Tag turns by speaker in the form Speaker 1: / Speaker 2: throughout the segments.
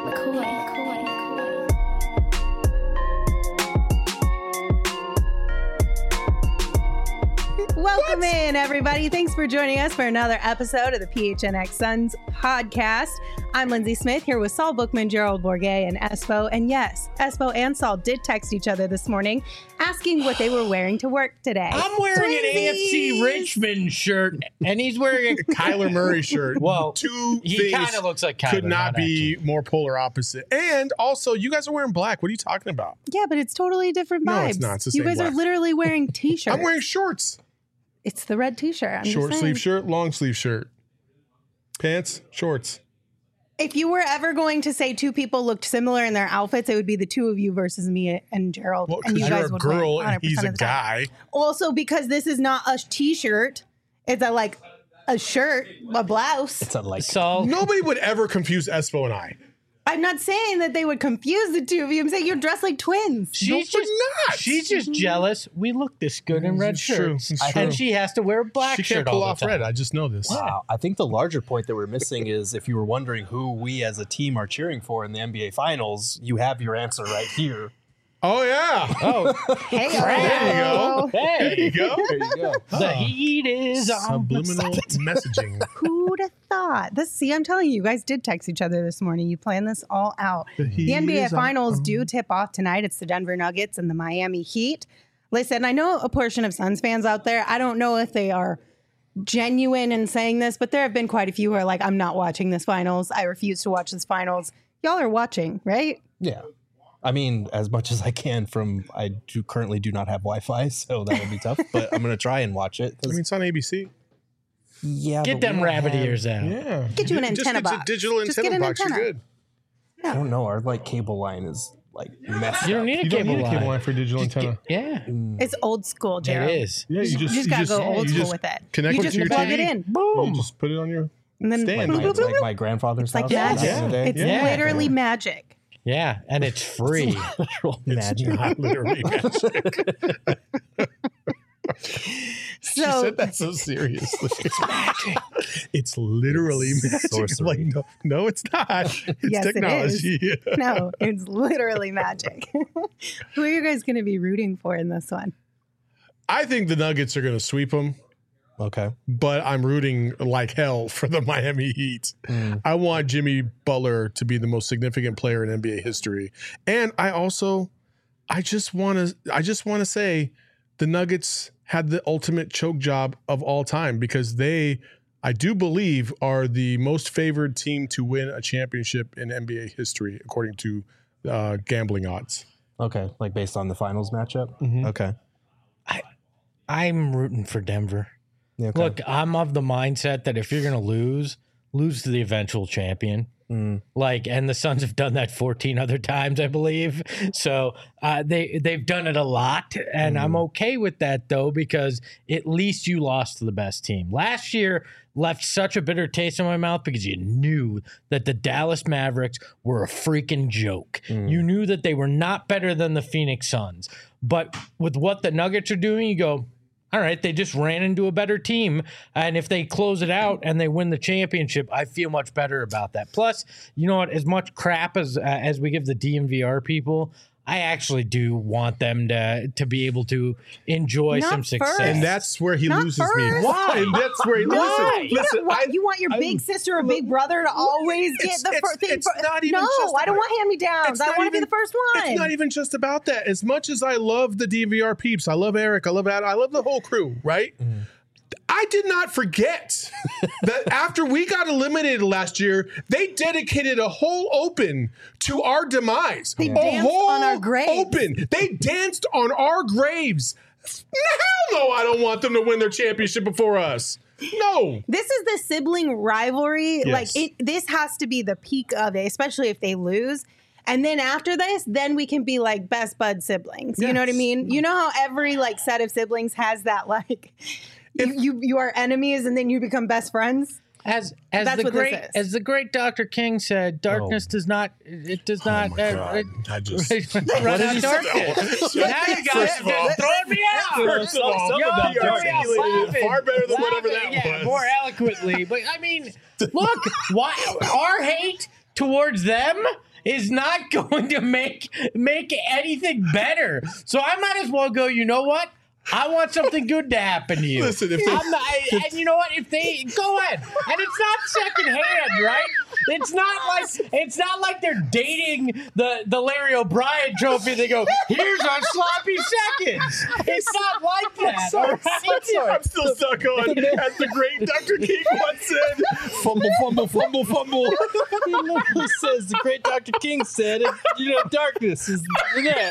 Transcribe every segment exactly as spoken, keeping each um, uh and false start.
Speaker 1: McCoy, McCoy, McCoy.
Speaker 2: Welcome what? in, everybody. Thanks for joining us for another episode of the P H N X Suns podcast. I'm Lindsay Smith here with Saul Bookman, Gerald Bourguet, and Espo. And yes, Espo and Saul did text each other this morning asking what they were wearing to work today.
Speaker 3: I'm wearing Twinsies. an A F C Richmond shirt, and he's wearing a
Speaker 4: Kyler Murray shirt.
Speaker 3: Well,
Speaker 4: two
Speaker 3: he kind of looks like Kyler.
Speaker 4: Could not,
Speaker 3: not
Speaker 4: be
Speaker 3: actually.
Speaker 4: more polar opposite. And also, you guys are wearing black. What are you talking about?
Speaker 2: Yeah, but it's totally different vibes.
Speaker 4: No, it's not. It's the
Speaker 2: you
Speaker 4: same
Speaker 2: guys
Speaker 4: black.
Speaker 2: are literally wearing t-shirts.
Speaker 4: I'm wearing shorts.
Speaker 2: It's the red t-shirt. I'm
Speaker 4: Short
Speaker 2: just
Speaker 4: sleeve
Speaker 2: saying.
Speaker 4: shirt, long sleeve shirt. Pants, shorts.
Speaker 2: If you were ever going to say two people looked similar in their outfits, it would be the two of you versus me and Gerald.
Speaker 4: Well,
Speaker 2: and
Speaker 4: because
Speaker 2: you
Speaker 4: you're
Speaker 2: guys
Speaker 4: a
Speaker 2: would
Speaker 4: girl
Speaker 2: win
Speaker 4: and he's a
Speaker 2: of the time.
Speaker 4: guy.
Speaker 2: Also, because this is not a t-shirt, it's a like a shirt, a blouse.
Speaker 5: It's a like.
Speaker 3: So
Speaker 4: Nobody would ever confuse Espo and I.
Speaker 2: I'm not saying that they would confuse the two of you. I'm saying you're dressed like twins.
Speaker 3: she's
Speaker 4: No,
Speaker 3: just
Speaker 4: we're not.
Speaker 3: she's just jealous. We look this good in red
Speaker 4: It's true.
Speaker 3: shirts,
Speaker 4: It's true.
Speaker 3: and she has to wear a black
Speaker 4: She
Speaker 3: shirt
Speaker 4: can't pull
Speaker 3: all
Speaker 4: off
Speaker 3: the time.
Speaker 4: red. I just know this.
Speaker 5: Wow. I think the larger point that we're missing is if you were wondering who we as a team are cheering for in the N B A Finals, you have your answer right here.
Speaker 4: Oh, yeah.
Speaker 3: Oh,
Speaker 2: Hey,
Speaker 4: There you go.
Speaker 3: hey,
Speaker 4: There you go.
Speaker 5: There you go.
Speaker 3: the heat is on.
Speaker 4: Subliminal messaging.
Speaker 2: Who'd have thought? This, see, I'm telling you, you guys did text each other this morning. You planned this all out.
Speaker 4: The heat
Speaker 2: The N B A
Speaker 4: is on.
Speaker 2: Finals do tip off tonight. It's the Denver Nuggets and the Miami Heat. Listen, I know a portion of Suns fans out there. I don't know if they are genuine in saying this, but there have been quite a few who are like, I'm not watching this finals. I refuse to watch this finals. Y'all are watching, right?
Speaker 5: Yeah. I mean, as much as I can from, I do currently do not have Wi-Fi, so that would be tough, but I'm going to try and watch it.
Speaker 4: I mean, it's on A B C.
Speaker 5: Yeah.
Speaker 3: Get
Speaker 5: but
Speaker 3: them
Speaker 5: we don't
Speaker 3: rabbit
Speaker 5: have-
Speaker 3: ears out.
Speaker 4: Yeah.
Speaker 2: Get you an
Speaker 4: Just
Speaker 2: antenna
Speaker 4: get a
Speaker 2: box.
Speaker 4: digital
Speaker 2: Just
Speaker 4: antenna
Speaker 2: get an
Speaker 4: box.
Speaker 2: antenna.
Speaker 4: You're good.
Speaker 5: I don't know. Our like cable line is like messed
Speaker 3: You
Speaker 5: up.
Speaker 3: don't need a
Speaker 4: You don't
Speaker 3: cable
Speaker 4: need a
Speaker 3: line.
Speaker 4: cable line for a digital
Speaker 3: Just
Speaker 4: antenna.
Speaker 3: get- yeah,
Speaker 2: It's old school, Jared.
Speaker 3: it is.
Speaker 4: Yeah, you just
Speaker 2: You just
Speaker 4: you
Speaker 2: gotta
Speaker 4: just,
Speaker 2: go old
Speaker 4: you
Speaker 2: school
Speaker 4: just
Speaker 2: with it.
Speaker 4: Connect
Speaker 2: You
Speaker 4: it
Speaker 2: just
Speaker 4: to your
Speaker 2: plug
Speaker 4: T V.
Speaker 2: it in.
Speaker 4: You
Speaker 3: Boom.
Speaker 4: just put it on your.
Speaker 2: And then
Speaker 4: Stand.
Speaker 5: Like
Speaker 2: boop,
Speaker 5: my,
Speaker 2: boop, boop,
Speaker 5: like
Speaker 2: boop.
Speaker 5: my grandfather's
Speaker 2: It's like
Speaker 5: house.
Speaker 2: magic.
Speaker 4: Yeah.
Speaker 5: Today.
Speaker 2: It's
Speaker 3: Yeah.
Speaker 2: literally magic.
Speaker 3: Yeah, and it's free.
Speaker 5: Literal
Speaker 4: It's
Speaker 5: magic.
Speaker 4: not literally magic. she
Speaker 2: So
Speaker 4: said that so seriously. It's magic. It's literally
Speaker 5: It's
Speaker 4: magic.
Speaker 5: sorcery.
Speaker 4: Like, no, no, it's not. It's
Speaker 2: Yes, it
Speaker 4: technology.
Speaker 2: no, it's literally magic. Who are you guys going to be rooting for in this one?
Speaker 4: I think the Nuggets are going to sweep them,
Speaker 5: Okay.
Speaker 4: but I'm rooting like hell for the Miami Heat.
Speaker 5: Mm.
Speaker 4: I want Jimmy Butler to be the most significant player in N B A history. And I also, I just want to, I just want to say the Nuggets had the ultimate choke job of all time because they, I do believe, are the most favored team to win a championship in N B A history, according to uh, gambling odds.
Speaker 5: Okay. Like based on the finals matchup.
Speaker 4: Mhm.
Speaker 5: Okay.
Speaker 3: I'm rooting for Denver.
Speaker 5: Yeah, okay.
Speaker 3: Look, I'm of the mindset that if you're going to lose, lose to the eventual champion.
Speaker 5: Mm.
Speaker 3: Like, and the Suns have done that fourteen other times, I believe. So uh, they they've done it a lot, and I'm okay with that though because at least you lost to the best team. Last year left such a bitter taste in my mouth because you knew that the Dallas Mavericks were a freaking joke.
Speaker 5: Mm.
Speaker 3: You knew that they were not better than the Phoenix Suns, but with what the Nuggets are doing, you go, all right, they just ran into a better team. And if they close it out and they win the championship, I feel much better about that. Plus, you know what? As much crap as uh, as we give the D M V R people, I actually do want them to to be able to enjoy
Speaker 2: Not
Speaker 3: some
Speaker 2: first.
Speaker 3: success.
Speaker 4: And that's where he
Speaker 2: Not
Speaker 4: loses me.
Speaker 2: first.
Speaker 3: Why?
Speaker 4: And that's where he
Speaker 2: No,
Speaker 4: listen.
Speaker 2: you,
Speaker 4: Listen,
Speaker 2: don't want,
Speaker 4: I-
Speaker 2: you want your
Speaker 4: I-
Speaker 2: big sister or big brother to always get
Speaker 4: It's-
Speaker 2: the
Speaker 4: it's-
Speaker 2: first thing.
Speaker 4: it's
Speaker 2: fir-
Speaker 4: not even
Speaker 2: no,
Speaker 4: just
Speaker 2: I don't
Speaker 4: about-
Speaker 2: want hand-me-downs.
Speaker 4: It's
Speaker 2: I
Speaker 4: not
Speaker 2: want to be
Speaker 4: even-
Speaker 2: the first one.
Speaker 4: It's not even just about that. As much as I love the D M V R peeps, I love Eric, I love Adam, I love the whole crew, right? I did not forget that after we got eliminated last year, they dedicated a whole open to our demise.
Speaker 2: They
Speaker 4: a
Speaker 2: danced
Speaker 4: whole
Speaker 2: on our graves.
Speaker 4: Open. They danced on our graves. Hell no, I don't want them to win their championship before us. No.
Speaker 2: This is the sibling rivalry.
Speaker 4: Yes.
Speaker 2: Like it, this has to be the peak of it, especially if they lose. And then after this, then we can be like best bud siblings. You know what I
Speaker 4: Yes.
Speaker 2: mean? You know how every like set of siblings has that like you, you you are enemies and then you become best friends.
Speaker 3: As as
Speaker 2: That's
Speaker 3: the
Speaker 2: what this
Speaker 3: great
Speaker 2: is.
Speaker 3: as the great Doctor King said, darkness does not it does not
Speaker 4: Oh my
Speaker 3: uh,
Speaker 4: God.
Speaker 3: it-
Speaker 4: I just
Speaker 3: run out darkness.
Speaker 4: No.
Speaker 3: Now you guys
Speaker 4: First
Speaker 3: are
Speaker 4: of all-
Speaker 3: just throwing me out.
Speaker 4: First of all,
Speaker 3: Yo,
Speaker 4: you
Speaker 3: hurry up,
Speaker 4: articulated
Speaker 3: laughing,
Speaker 4: it far better than whatever
Speaker 3: laughing,
Speaker 4: that
Speaker 3: yeah,
Speaker 4: was.
Speaker 3: more eloquently. But I mean, look, why our hate towards them is not going to make make anything better. So I might as well go, you know what? I want something good to happen to you.
Speaker 4: Listen, if they,
Speaker 3: I'm not, and you know what? If they go ahead, and it's not secondhand, right? It's not like it's not like they're dating the the Larry O'Brien trophy. They go, here's our sloppy seconds. It's not like that.
Speaker 5: sorry,
Speaker 3: all right?
Speaker 5: I'm sorry.
Speaker 4: I'm still stuck on, as the great Doctor King once said,
Speaker 5: Fumble, fumble, fumble, fumble. He literally says, the great Doctor King said, it, you know, darkness is that.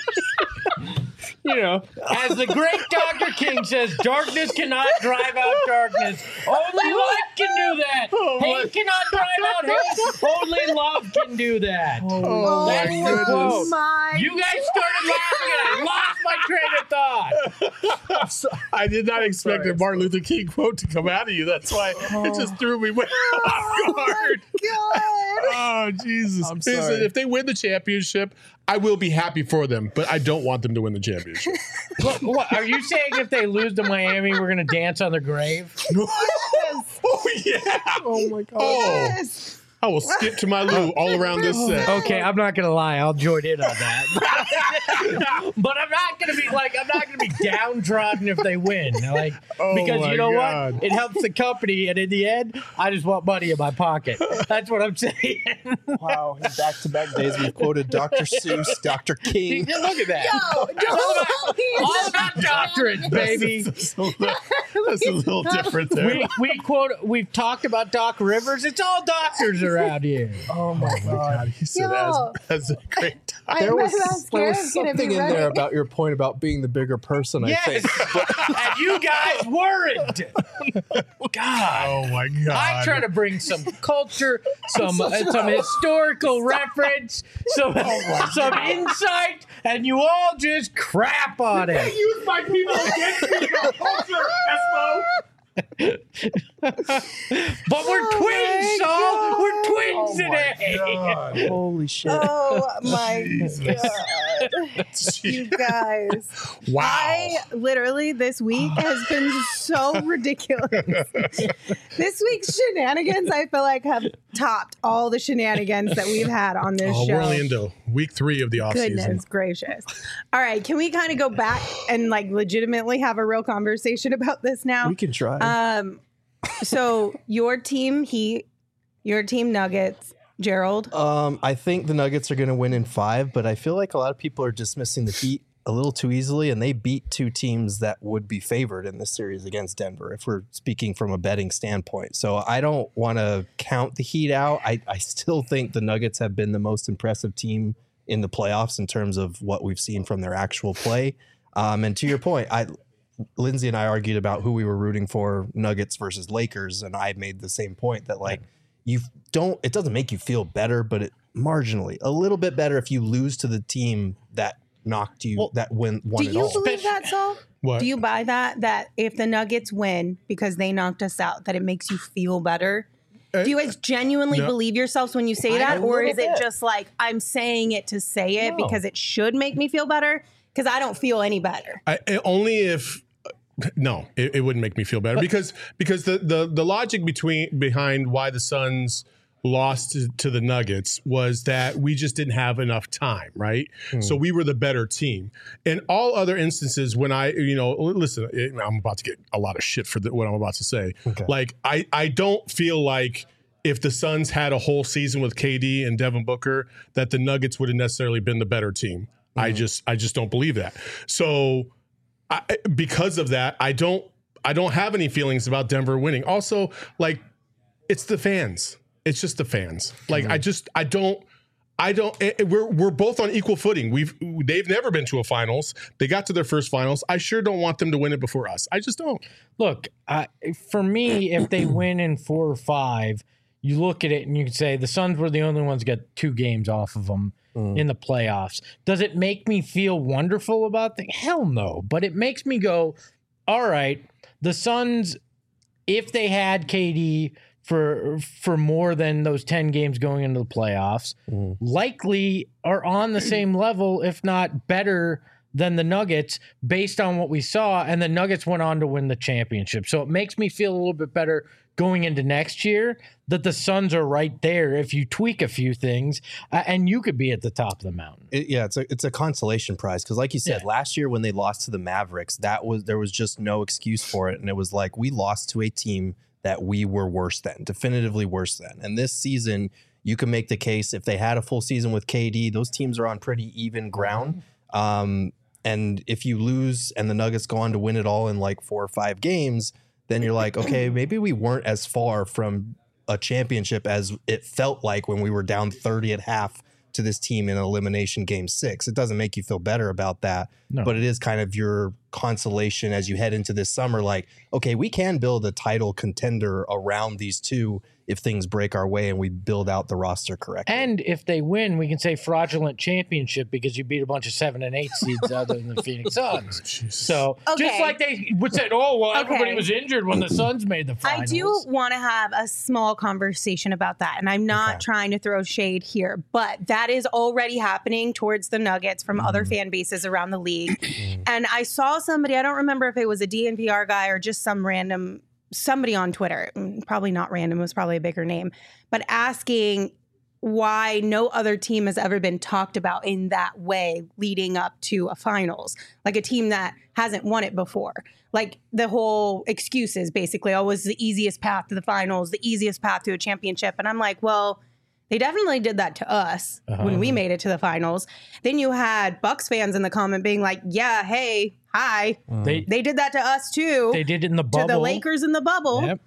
Speaker 3: You know, as the great Doctor King says, darkness cannot drive out darkness. Only light can do that.
Speaker 4: Oh,
Speaker 3: hate
Speaker 4: my-
Speaker 3: cannot drive out hate. Only love can do that.
Speaker 4: Oh,
Speaker 3: That's
Speaker 4: my
Speaker 3: the
Speaker 4: goodness.
Speaker 3: quote.
Speaker 2: my
Speaker 3: You guys started laughing and I lost my train of thought.
Speaker 4: I did not expect
Speaker 5: sorry,
Speaker 4: a Martin Luther King quote to come out of you. That's why it just threw me way off guard.
Speaker 2: God.
Speaker 4: Oh, Jesus.
Speaker 5: I'm
Speaker 4: Listen,
Speaker 5: sorry.
Speaker 4: if they win the championship, I will be happy for them, but I don't want them to win the championship.
Speaker 3: What, what, are you saying if they lose to Miami, we're going to dance on their grave?
Speaker 4: Oh, yeah.
Speaker 5: Oh, my God.
Speaker 4: Oh,
Speaker 2: Yes.
Speaker 4: I will skip to my loo all around this set.
Speaker 3: Okay, I'm not gonna lie. I'll join in on that. But I'm not gonna be like I'm not gonna be downtrodden if they win. Like
Speaker 4: Oh
Speaker 3: because
Speaker 4: my
Speaker 3: you know
Speaker 4: God.
Speaker 3: what? It helps the company, and in the end, I just want money in my pocket. That's what I'm saying.
Speaker 5: Wow. In back-to-back days, we've quoted Doctor Seuss, Doctor King.
Speaker 3: Look at that.
Speaker 2: Yo, don't
Speaker 3: All about doctorates, baby.
Speaker 4: That's a little, that's a little different there.
Speaker 3: We we quote we've talked about Doc Rivers. It's all doctors around here.
Speaker 5: Oh, my God.
Speaker 4: He said,
Speaker 2: Yo.
Speaker 4: as, as a great
Speaker 2: I,
Speaker 5: There
Speaker 2: my
Speaker 5: was, there
Speaker 2: mascara's
Speaker 5: was
Speaker 2: gonna
Speaker 5: something
Speaker 2: be
Speaker 5: in
Speaker 2: ready.
Speaker 5: there about your point about being the bigger person, I
Speaker 3: Yes,
Speaker 5: think.
Speaker 3: and you guys weren't. God.
Speaker 4: Oh, my God.
Speaker 3: I try to bring some culture, some uh, some historical reference, some some insight, and you all just crap on it.
Speaker 4: use my people against me, culture, Esmo.
Speaker 3: But we're twins, Saul. We're twins today.
Speaker 5: Holy shit.
Speaker 2: Oh my God. You guys.
Speaker 4: Wow.
Speaker 2: I literally, this week has been so ridiculous. This week's shenanigans, I feel like, have topped all the shenanigans that we've had on this
Speaker 4: Oh,
Speaker 2: show.
Speaker 4: we're only into week three of the offseason.
Speaker 2: Goodness gracious. All right. Can we kind of go back and like legitimately have a real conversation about this now?
Speaker 5: We can try.
Speaker 2: Um, so your team Heat, your team Nuggets, Gerald.
Speaker 5: Um, I think the Nuggets are going to win in five, but I feel like a lot of people are dismissing the Heat a little too easily, and they beat two teams that would be favored in this series against Denver, if we're speaking from a betting standpoint. So I don't want to count the Heat out. I, I still think the Nuggets have been the most impressive team in the playoffs in terms of what we've seen from their actual play. Um, and to your point, I Lindsay and I argued about who we were rooting for, Nuggets versus Lakers, and I made the same point that like you don't, it doesn't make you feel better, but it marginally a little bit better if you lose to the team that knocked you,
Speaker 3: Well,
Speaker 5: that win won
Speaker 2: Do
Speaker 5: it
Speaker 2: you
Speaker 5: all.
Speaker 2: believe that, Saul?
Speaker 4: What?
Speaker 2: Do you buy that? That if the Nuggets win because they knocked us out, that it makes you feel better? Do you guys genuinely
Speaker 4: no.
Speaker 2: believe yourselves when you say
Speaker 5: I-
Speaker 2: that?
Speaker 5: a
Speaker 2: Or
Speaker 5: little
Speaker 2: is it
Speaker 5: bit.
Speaker 2: just like, I'm saying it to say it
Speaker 5: No.
Speaker 2: because it should make me feel better? Because I don't feel any better.
Speaker 4: I, I- only if no, it, it wouldn't make me feel better because because the, the the logic between behind why the Suns lost to, to the Nuggets was that we just didn't have enough time, right? So we were the better team. In all other instances, when I, you know, listen, I'm about to get a lot of shit for the, what I'm about to say.
Speaker 5: Okay.
Speaker 4: Like, I, I don't feel like if the Suns had a whole season with K D and Devin Booker, that the Nuggets would have necessarily been the better team. I just, I just don't believe that. So I, because of that, I don't, I don't have any feelings about Denver winning. Also, like, it's the fans. It's just the fans. Like I just I don't I don't it, it- we're we're both on equal footing. We've they've never been to a finals. They got to their first finals. I sure don't want them to win it before us. I just don't.
Speaker 3: Look, uh, for me, if they win in four or five, you look at it and you can say the Suns were the only ones that got two games off of them in the playoffs. Does it make me feel wonderful about things? Hell no. But it makes me go, all right, the Suns, if they had K D for for more than those ten games going into the playoffs, likely are on the same level, if not better than the Nuggets based on what we saw. And the Nuggets went on to win the championship. So it makes me feel a little bit better going into next year that the Suns are right there if you tweak a few things, uh, and you could be at the top of the mountain.
Speaker 5: It, yeah, it's a it's a consolation prize because, like you said,
Speaker 3: Yeah.
Speaker 5: last year when they lost to the Mavericks, that was there was just no excuse for it, and it was like we lost to a team that we were worse than, definitively worse than. And this season, you can make the case if they had a full season with K D, those teams are on pretty even ground. Um, and if you lose and the Nuggets go on to win it all in like four or five games, then you're like, okay, maybe we weren't as far from a championship as it felt like when we were down thirty at half to this team in elimination game six. It doesn't make you feel better about that,
Speaker 3: No.
Speaker 5: but it is kind of your consolation as you head into this summer. Like, okay, we can build a title contender around these two if things break our way and we build out the roster correctly.
Speaker 3: And if they win, we can say fraudulent championship because you beat a bunch of seven and eight seeds other than the Phoenix Suns. So just
Speaker 2: Okay.
Speaker 3: like they would say, oh, well, everybody
Speaker 2: Okay.
Speaker 3: was injured when the Suns made the
Speaker 2: I
Speaker 3: finals.
Speaker 2: do want to have a small conversation about that. And I'm not
Speaker 5: Okay.
Speaker 2: trying to throw shade here, but that is already happening towards the Nuggets from other
Speaker 5: Mm-hmm.
Speaker 2: fan bases around the league. And I saw somebody, I don't remember if it was a D N V R guy or just some random somebody on Twitter, mm, probably not random, it was probably a bigger name, but asking why no other team has ever been talked about in that way leading up to a finals, like a team that hasn't won it before. Like the whole excuses basically, oh, it was the easiest path to the finals, the easiest path to a championship. And I'm like, well, they definitely did that to us
Speaker 3: Uh-huh.
Speaker 2: when we made it to the finals. Then you had Bucks fans in the comment being like, yeah, hey, hi.
Speaker 3: They
Speaker 2: They did that to us too.
Speaker 3: they did it in the
Speaker 2: to
Speaker 3: bubble.
Speaker 2: the Lakers in the bubble.
Speaker 3: Yep.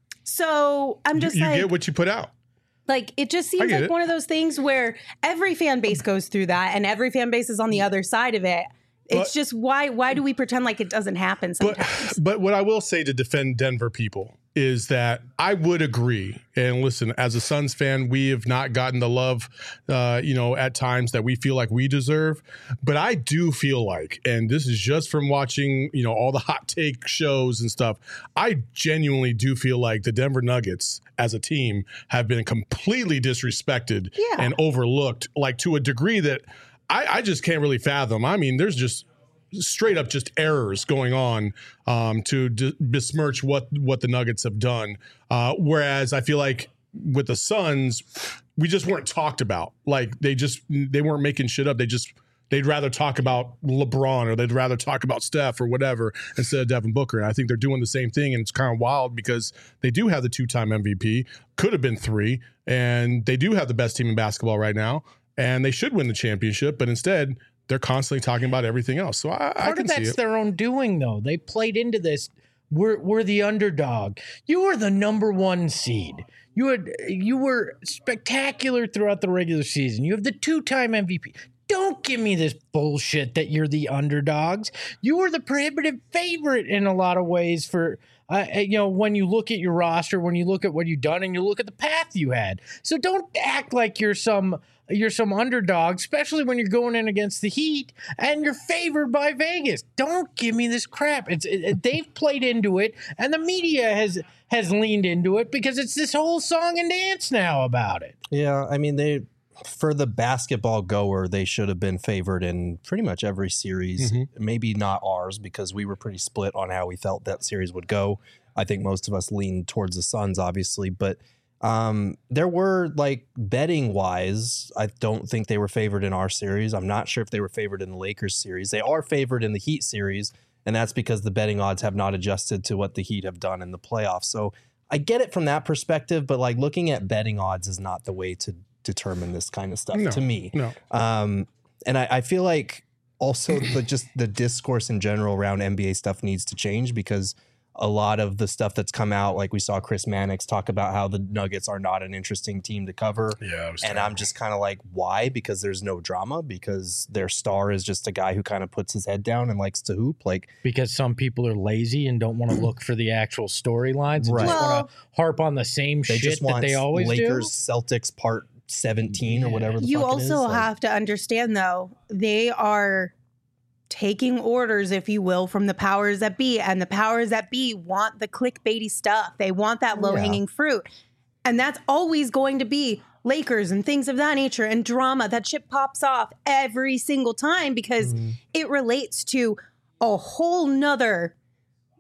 Speaker 2: So I'm just
Speaker 4: you
Speaker 2: like,
Speaker 4: get what you put out.
Speaker 2: like it just
Speaker 4: I
Speaker 2: seems
Speaker 4: get
Speaker 2: like
Speaker 4: it.
Speaker 2: one of those things where every fan base goes through that, and every fan base is on the other side of it. It's
Speaker 4: But-
Speaker 2: just why why do we pretend like it doesn't happen
Speaker 4: But
Speaker 2: sometimes?
Speaker 4: but what I will say to defend Denver people is that I would agree. And listen, as a Suns fan, we have not gotten the love, uh, you know, at times that we feel like we deserve. But I do feel like, and this is just from watching, you know, all the hot take shows and stuff. I genuinely do feel like the Denver Nuggets as a team have been completely disrespected
Speaker 2: Yeah.
Speaker 4: and overlooked, like to a degree that I, I just can't really fathom. I mean, there's just straight up just errors going on um, to d- besmirch what what the Nuggets have done. Uh, whereas I feel like with the Suns, we just weren't talked about. Like they just they weren't making shit up. They just they'd rather talk about LeBron or they'd rather talk about Steph or whatever instead of Devin Booker. And I think they're doing the same thing, and it's kind of wild because they do have the two-time M V P, could have been three, and they do have the best team in basketball right now, and they should win the championship, but instead they're constantly talking about everything else. So I, I
Speaker 3: Part
Speaker 4: can
Speaker 3: of
Speaker 4: see
Speaker 3: that's
Speaker 4: it.
Speaker 3: their own doing, though. They played into this. We're we're the underdog. You were the number one seed. You had you were spectacular throughout the regular season. You have the two-time M V P. Don't give me this bullshit that you're the underdogs. You were the prohibitive favorite in a lot of ways for, uh, you know, when you look at your roster, when you look at what you've done, and you look at the path you had. So don't act like you're some you're some underdog, especially when you're going in against the Heat and you're favored by Vegas. Don't give me this crap. It's it, it- they've played into it, and the media has has leaned into it because it's this whole song and dance now about it.
Speaker 5: Yeah, I mean, they for the basketball goer, they should have been favored in pretty much every series. Maybe not ours because we were pretty split on how we felt that series would go. I think most of us leaned towards the Suns, obviously, but um, there were like betting wise, I don't think they were favored in our series. I'm not sure if they were favored in the Lakers series. They are favored in the Heat series, and that's because the betting odds have not adjusted to what the Heat have done in the playoffs. So I get it from that perspective, but like looking at betting odds is not the way to determine this kind of stuff
Speaker 4: No,
Speaker 5: to me.
Speaker 4: no.
Speaker 5: Um, and I, I feel like also the just the discourse in general around N B A stuff needs to change because a lot of the stuff that's come out, like we saw Chris Mannix talk about how the Nuggets are not an interesting team to cover.
Speaker 4: Yeah, it was
Speaker 5: And I'm just kind of like, why? Because there's no drama, because their star is just a guy who kind of puts his head down and likes to hoop. Like,
Speaker 3: Because some people are lazy and don't want to look for the actual storylines and
Speaker 5: Right.
Speaker 3: just
Speaker 2: Well-
Speaker 3: want to harp on the same
Speaker 5: they
Speaker 3: shit
Speaker 5: just want
Speaker 3: that they always
Speaker 5: Lakers,
Speaker 3: do.
Speaker 5: Celtics part seventeen or whatever the
Speaker 2: You
Speaker 5: fuck it
Speaker 2: also
Speaker 5: is. Like,
Speaker 2: have to understand, though, they are taking orders, if you will, from the powers that be. And the powers that be want the clickbaity stuff. They want that low hanging fruit. And that's always going to be Lakers and things of that nature and drama. That shit pops off every single time because
Speaker 5: Mm-hmm.
Speaker 2: it relates to a whole nother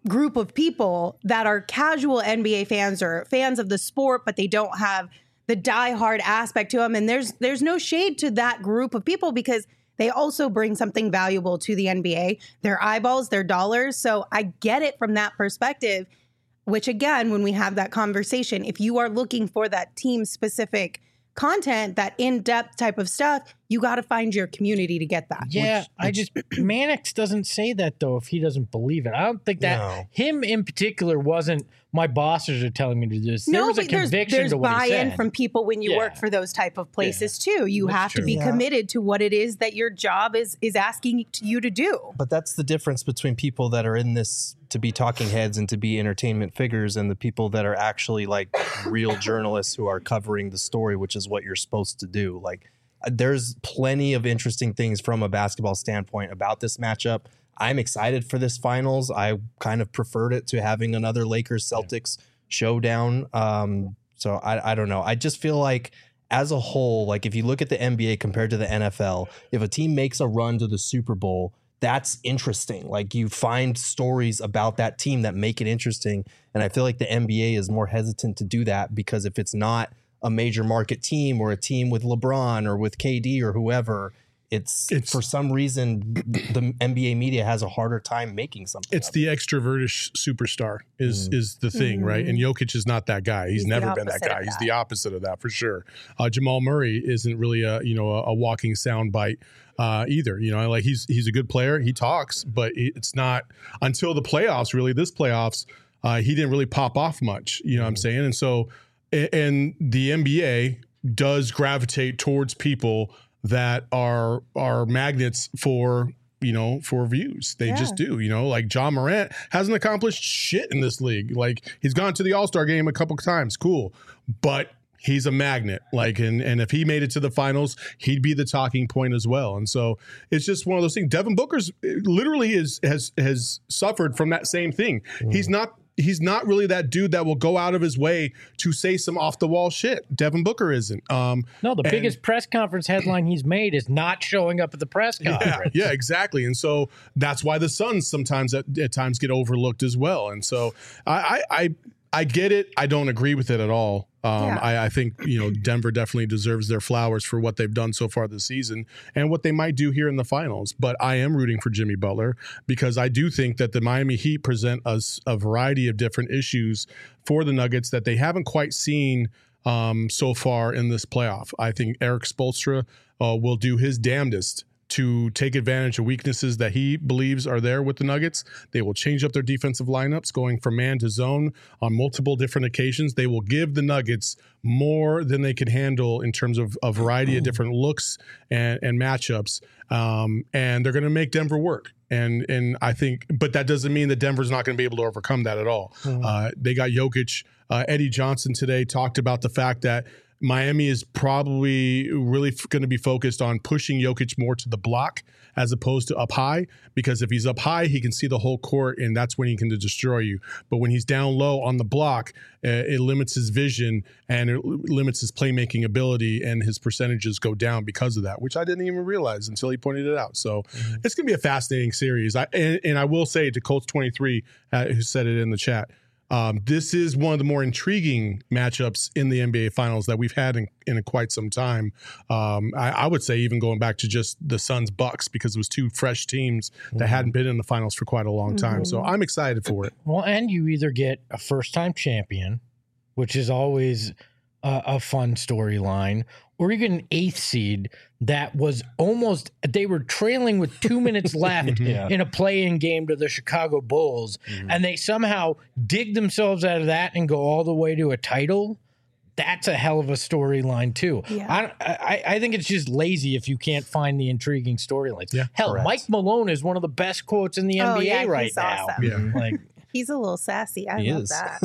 Speaker 2: group of people that are casual N B A fans or fans of the sport, but they don't have the diehard aspect to them. And there's there's no shade to that group of people because they also bring something valuable to the N B A, their eyeballs, their dollars. So I get it from that perspective, which again, when we have that conversation, if you are looking for that team specific content, that in-depth type of stuff, you got to find your community to get that.
Speaker 3: Yeah,
Speaker 2: which,
Speaker 3: I just Mannix doesn't say that though if he doesn't believe it. I don't think that
Speaker 5: No.
Speaker 3: him in particular wasn't my bosses are telling me to do this. There
Speaker 2: no,
Speaker 3: was a
Speaker 2: but there's,
Speaker 3: conviction
Speaker 2: there's
Speaker 3: to what he
Speaker 2: buy-in
Speaker 3: said.
Speaker 2: from people when you
Speaker 3: Yeah.
Speaker 2: work for those type of places too. You
Speaker 3: That's
Speaker 2: have
Speaker 3: true.
Speaker 2: to be
Speaker 5: Yeah.
Speaker 2: committed to what it is that your job is is asking you to do.
Speaker 5: But that's the difference between people that are in this to be talking heads and to be entertainment figures and the people that are actually like real journalists who are covering the story, which is what you're supposed to do. Like there's plenty of interesting things from a basketball standpoint about this matchup. I'm excited for this finals. I kind of preferred it to having another Lakers Celtics showdown. Um, so I, I don't know. I just feel like as a whole, like if you look at the N B A compared to the N F L, if a team makes a run to the Super Bowl, that's interesting. Like you find stories about that team that make it interesting. And I feel like the N B A is more hesitant to do that because if it's not a major market team or a team with LeBron or with K D or whoever, it's,
Speaker 4: It's-
Speaker 5: for some reason the N B A media has a harder time making something.
Speaker 4: It's
Speaker 5: of
Speaker 4: the extrovertish superstar is
Speaker 5: Mm.
Speaker 4: is the thing, right? And Jokic is not that guy. He's,
Speaker 2: He's the
Speaker 4: never been that
Speaker 2: opposite of
Speaker 4: guy. He's
Speaker 2: that.
Speaker 4: the opposite of that for sure. Uh, Jamal Murray isn't really a you know a, a walking soundbite uh, either. You know, like he's he's a good player. He talks, but it's not until the playoffs. Really, this playoffs, uh, he didn't really pop off much. You know what I'm saying? And so, a- and the N B A does gravitate towards people that are are magnets for you know for views. They
Speaker 2: Yeah.
Speaker 4: just do. You know, like John Morant hasn't accomplished shit in this league. Like he's gone to the All-Star game a couple times, cool, but he's a magnet. Like and and if he made it to the finals, he'd be the talking point as well. And so it's just one of those things. Devin Booker's literally is has has suffered from that same thing. He's not. He's not really that dude that will go out of his way to say some off the wall shit. Devin Booker isn't. Um,
Speaker 3: No, the
Speaker 4: and-
Speaker 3: biggest press conference headline he's made is not showing up at the press
Speaker 4: yeah,
Speaker 3: conference.
Speaker 4: yeah, exactly. And so that's why the Suns sometimes at, at times get overlooked as well. And so I, I, I, I get it. I don't agree with it at all. Um,
Speaker 2: Yeah.
Speaker 4: I, I think you know Denver definitely deserves their flowers for what they've done so far this season and what they might do here in the finals. But I am rooting for Jimmy Butler because I do think that the Miami Heat present us a variety of different issues for the Nuggets that they haven't quite seen um, so far in this playoff. I think Eric Spoelstra uh, will do his damnedest to take advantage of weaknesses that he believes are there with the Nuggets. They will change up their defensive lineups, going from man to zone on multiple different occasions. They will give the Nuggets more than they can handle in terms of a variety of different looks and, and matchups. Um, and they're going to make Denver work. And and I think, but that doesn't mean that Denver's not going to be able to overcome that at all. Uh, they got Jokic. Uh, Eddie Johnson today talked about the fact that Miami is probably really f- going to be focused on pushing Jokic more to the block as opposed to up high, because if he's up high, he can see the whole court, and that's when he can destroy you. But when he's down low on the block, uh, it limits his vision and it l- limits his playmaking ability, and his percentages go down because of that, which I didn't even realize until he pointed it out. So it's going to be a fascinating series. I, and, and I will say to Colts twenty-three, uh, who said it in the chat, Um, this is one of the more intriguing matchups in the N B A Finals that we've had in, in quite some time. Um, I, I would say even going back to just the Suns Bucks, because it was two fresh teams that hadn't been in the finals for quite a long time. So I'm excited for it.
Speaker 3: Well, and you either get a first time champion, which is always a, a fun storyline, or you get an eighth seed that was almost, they were trailing with two minutes left
Speaker 5: Yeah.
Speaker 3: in a play-in game to the Chicago Bulls, and they somehow dig themselves out of that and go all the way to a title. That's a hell of a storyline too.
Speaker 2: Yeah.
Speaker 3: I, I I think it's just lazy if you can't find the intriguing storylines.
Speaker 4: Yeah,
Speaker 3: hell,
Speaker 5: correct.
Speaker 3: Mike Malone is one of the best quotes in the
Speaker 2: Oh,
Speaker 3: N B A
Speaker 2: yeah,
Speaker 3: right
Speaker 2: he's
Speaker 3: now.
Speaker 2: awesome.
Speaker 4: Yeah.
Speaker 3: Like,
Speaker 2: He's a little sassy. I
Speaker 5: He
Speaker 2: love
Speaker 5: is.
Speaker 2: that.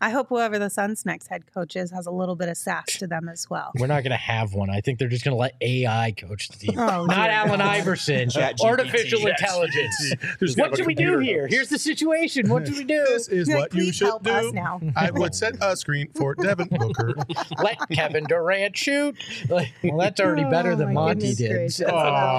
Speaker 2: I hope whoever the Suns' next head coach is has a little bit of sass to them as well.
Speaker 3: We're not going to have one. I think they're just going to let A I coach the team.
Speaker 2: Oh,
Speaker 3: not
Speaker 2: dear
Speaker 3: Allen
Speaker 2: God.
Speaker 3: Iverson.
Speaker 6: Chat G P T.
Speaker 3: Artificial
Speaker 6: Chat
Speaker 3: intelligence.
Speaker 4: There's
Speaker 3: What
Speaker 4: never
Speaker 3: should we
Speaker 4: a
Speaker 3: do
Speaker 4: computer
Speaker 3: here?
Speaker 4: knows.
Speaker 3: Here's the situation. What should we do?
Speaker 4: This is
Speaker 2: You're
Speaker 4: what
Speaker 2: like,
Speaker 4: you
Speaker 2: "Please
Speaker 4: should
Speaker 2: help us
Speaker 4: do.
Speaker 2: now."
Speaker 4: I would set a screen for Devin Booker.
Speaker 3: Let Kevin Durant shoot. Like, well, that's already better
Speaker 2: Oh,
Speaker 3: than
Speaker 2: my
Speaker 3: Monty
Speaker 2: goodness
Speaker 3: did.
Speaker 2: gracious.
Speaker 3: So-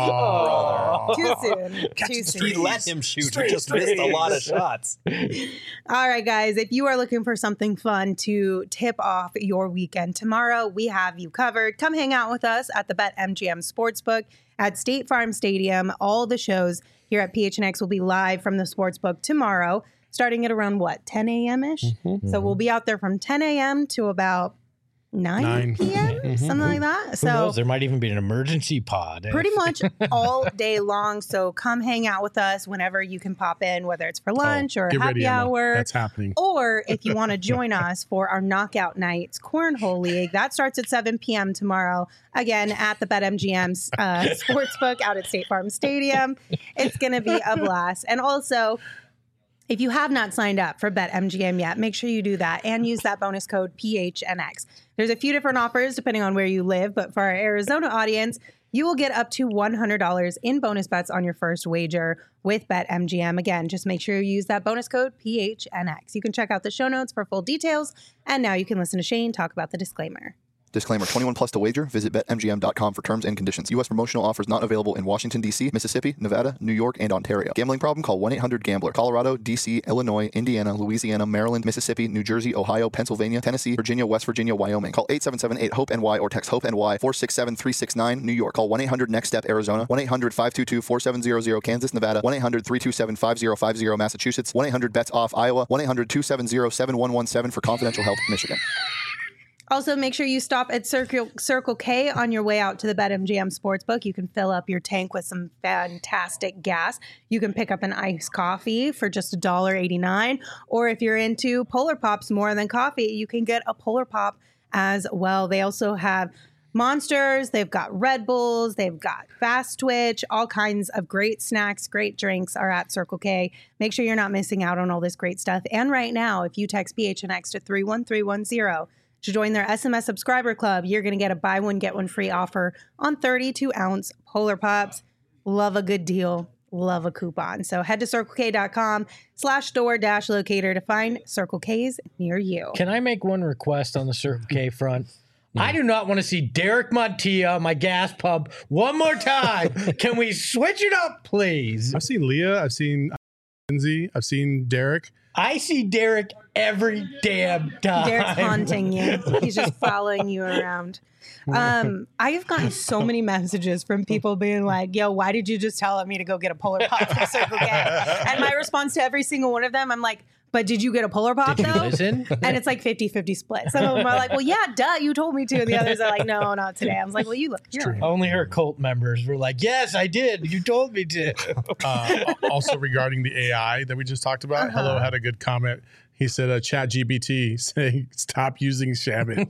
Speaker 4: Oh.
Speaker 2: Too soon. Too soon.
Speaker 5: He let him shoot. He just missed a lot of shots.
Speaker 2: All right, guys, if you are looking for something fun to tip off your weekend tomorrow, we have you covered. Come hang out with us at the BetMGM Sportsbook at State Farm Stadium. All the shows here at P H N X will be live from the Sportsbook tomorrow, starting at around, what, ten a.m.-ish?
Speaker 4: Mm-hmm.
Speaker 2: So we'll be out there from ten a.m. to about nine
Speaker 4: Nine.
Speaker 2: p.m., something like that.
Speaker 3: Who
Speaker 2: So
Speaker 3: knows? There might even be an emergency pod.
Speaker 2: pretty much all day long. So come hang out with us whenever you can pop in, whether it's for lunch or
Speaker 4: Get
Speaker 2: happy
Speaker 4: ready, Emma.
Speaker 2: hour.
Speaker 4: That's happening.
Speaker 2: Or if you want to join us for our Knockout Nights Cornhole League, that starts at seven p.m. tomorrow, again at the BetMGM uh, Sportsbook out at State Farm Stadium. It's going to be a blast. And also, if you have not signed up for BetMGM yet, make sure you do that and use that bonus code P H N X. There's a few different offers depending on where you live, but for our Arizona audience, you will get up to one hundred dollars in bonus bets on your first wager with BetMGM. Again, just make sure you use that bonus code P H N X. You can check out the show notes for full details. And now you can listen to Shane talk about the disclaimer.
Speaker 7: Disclaimer, twenty-one plus to wager. Visit Bet M G M dot com for terms and conditions. U S promotional offers not available in Washington, D C, Mississippi, Nevada, New York, and Ontario. Gambling problem? Call one eight hundred gambler. Colorado, D C, Illinois, Indiana, Louisiana, Maryland, Mississippi, New Jersey, Ohio, Pennsylvania, Tennessee, Virginia, West Virginia, Wyoming. Call eight seven seven eight hope N Y or text HOPE-NY four six seven three six nine. New York. Call one eight hundred next step Arizona. one eight hundred five two two four seven zero zero. Kansas, Nevada. one eight hundred three two seven five zero five zero. Massachusetts. one eight hundred bets off Iowa. one eight hundred two seven zero seven one one seven for confidential help. Michigan.
Speaker 2: Also, make sure you stop at Circle, Circle K on your way out to the BetMGM Sportsbook. You can fill up your tank with some fantastic gas. You can pick up an iced coffee for just one dollar and eighty-nine cents. Or if you're into Polar Pops more than coffee, you can get a Polar Pop as well. They also have Monsters, they've got Red Bulls, they've got Fast Twitch, all kinds of great snacks, great drinks are at Circle K. Make sure you're not missing out on all this great stuff. And right now, if you text P H N X to three one three one zero, to join their S M S subscriber club, you're going to get a buy one, get one free offer on thirty-two ounce Polar Pops. Love a good deal. Love a coupon. So head to CircleK.com slash store dash locator to find Circle K's near you.
Speaker 3: Can I make one request on the Circle K front? I do not want to see Derek Montilla, my gas pump, one more time. Can we switch it up, please?
Speaker 4: I've seen Leah. I've seen Lindsay. I've seen Derek.
Speaker 3: I see Derek every damn time.
Speaker 2: Derek's haunting you. He's just following you around. Um, I have gotten so many messages from people being like, yo, why did you just tell me to go get a Polar Pop from Circle K? And my response to every single one of them, I'm like, but did you get a Polar Pop
Speaker 3: Did you
Speaker 2: though?
Speaker 3: listen?
Speaker 2: And it's like fifty-fifty split. Some of them are like, well, yeah, duh, you told me to. And the others are like, no, not today. I was like, well, you look, you're
Speaker 3: Only her cult members were like, yes, I did. You told me to.
Speaker 4: Uh, also regarding the A I that we just talked about,
Speaker 2: Uh-huh.
Speaker 4: Hello had a good comment. He said, uh, Chat G P T saying, stop using Shabbat.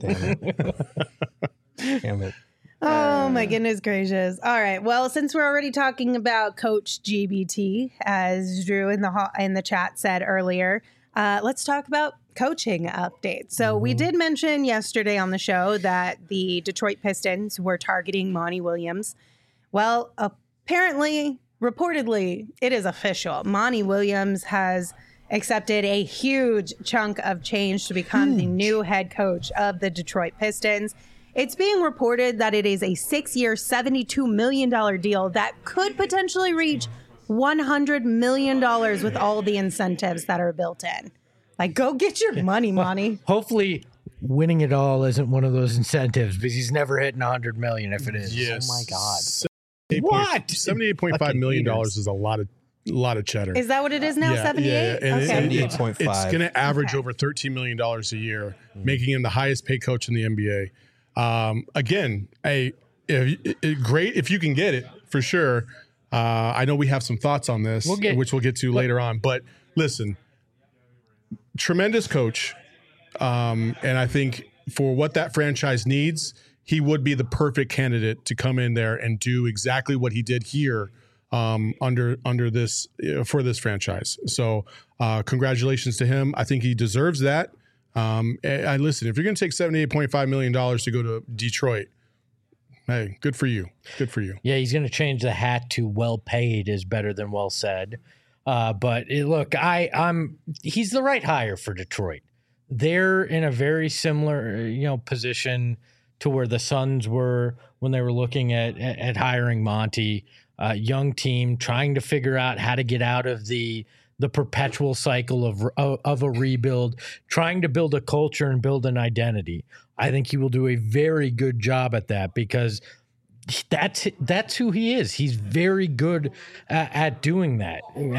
Speaker 5: Damn it.
Speaker 2: Oh my goodness gracious. All right. Well, since we're already talking about Coach G B T, as Drew in the ho- in the chat said earlier, uh, let's talk about coaching updates. So we did mention yesterday on the show that the Detroit Pistons were targeting Monty Williams. Well, apparently, reportedly, it is official. Monty Williams has accepted a huge chunk of change to become the new head coach of the Detroit Pistons. It's being reported that it is a six-year, seventy-two million dollars deal that could potentially reach one hundred million dollars with all the incentives that are built in. Like, go get your money, Monty.
Speaker 3: Hopefully, winning it all isn't one of those incentives because he's never hitting one hundred million dollars if it is.
Speaker 4: Yes.
Speaker 5: Oh my God.
Speaker 3: What?
Speaker 4: seventy-eight point five
Speaker 5: Fucking
Speaker 4: million dollars
Speaker 5: haters.
Speaker 4: is a lot of a lot of cheddar.
Speaker 2: Is that what it is now,
Speaker 4: Yeah,
Speaker 2: seventy-eight?
Speaker 4: yeah, and it-
Speaker 2: okay.
Speaker 4: and it's-
Speaker 5: seventy-eight point five.
Speaker 4: It's going to average
Speaker 2: Okay.
Speaker 4: over thirteen million dollars a year, making him the highest paid coach in the N B A. Um, again, a, if, it, great if you can get it, for sure. Uh, I know we have some thoughts on this,
Speaker 3: We'll get-
Speaker 4: which we'll get to later on. But listen, tremendous coach. Um, and I think for what that franchise needs, he would be the perfect candidate to come in there and do exactly what he did here um, under under this uh, for this franchise. So uh, congratulations to him. I think he deserves that. Um, I, I listen, if you're going to take seventy-eight point five million dollars to go to Detroit, hey, good for you. Good for you.
Speaker 3: Yeah, he's going to change the hat to well paid is better than well said. Uh, but it, look, I, I'm he's the right hire for Detroit. They're in a very similar, you know, position to where the Suns were when they were looking at at, at hiring Monty. Uh, young team trying to figure out how to get out of the the perpetual cycle of, of of a rebuild, trying to build a culture and build an identity. I think he will do a very good job at that because that's that's who he is. He's very good at, at doing that.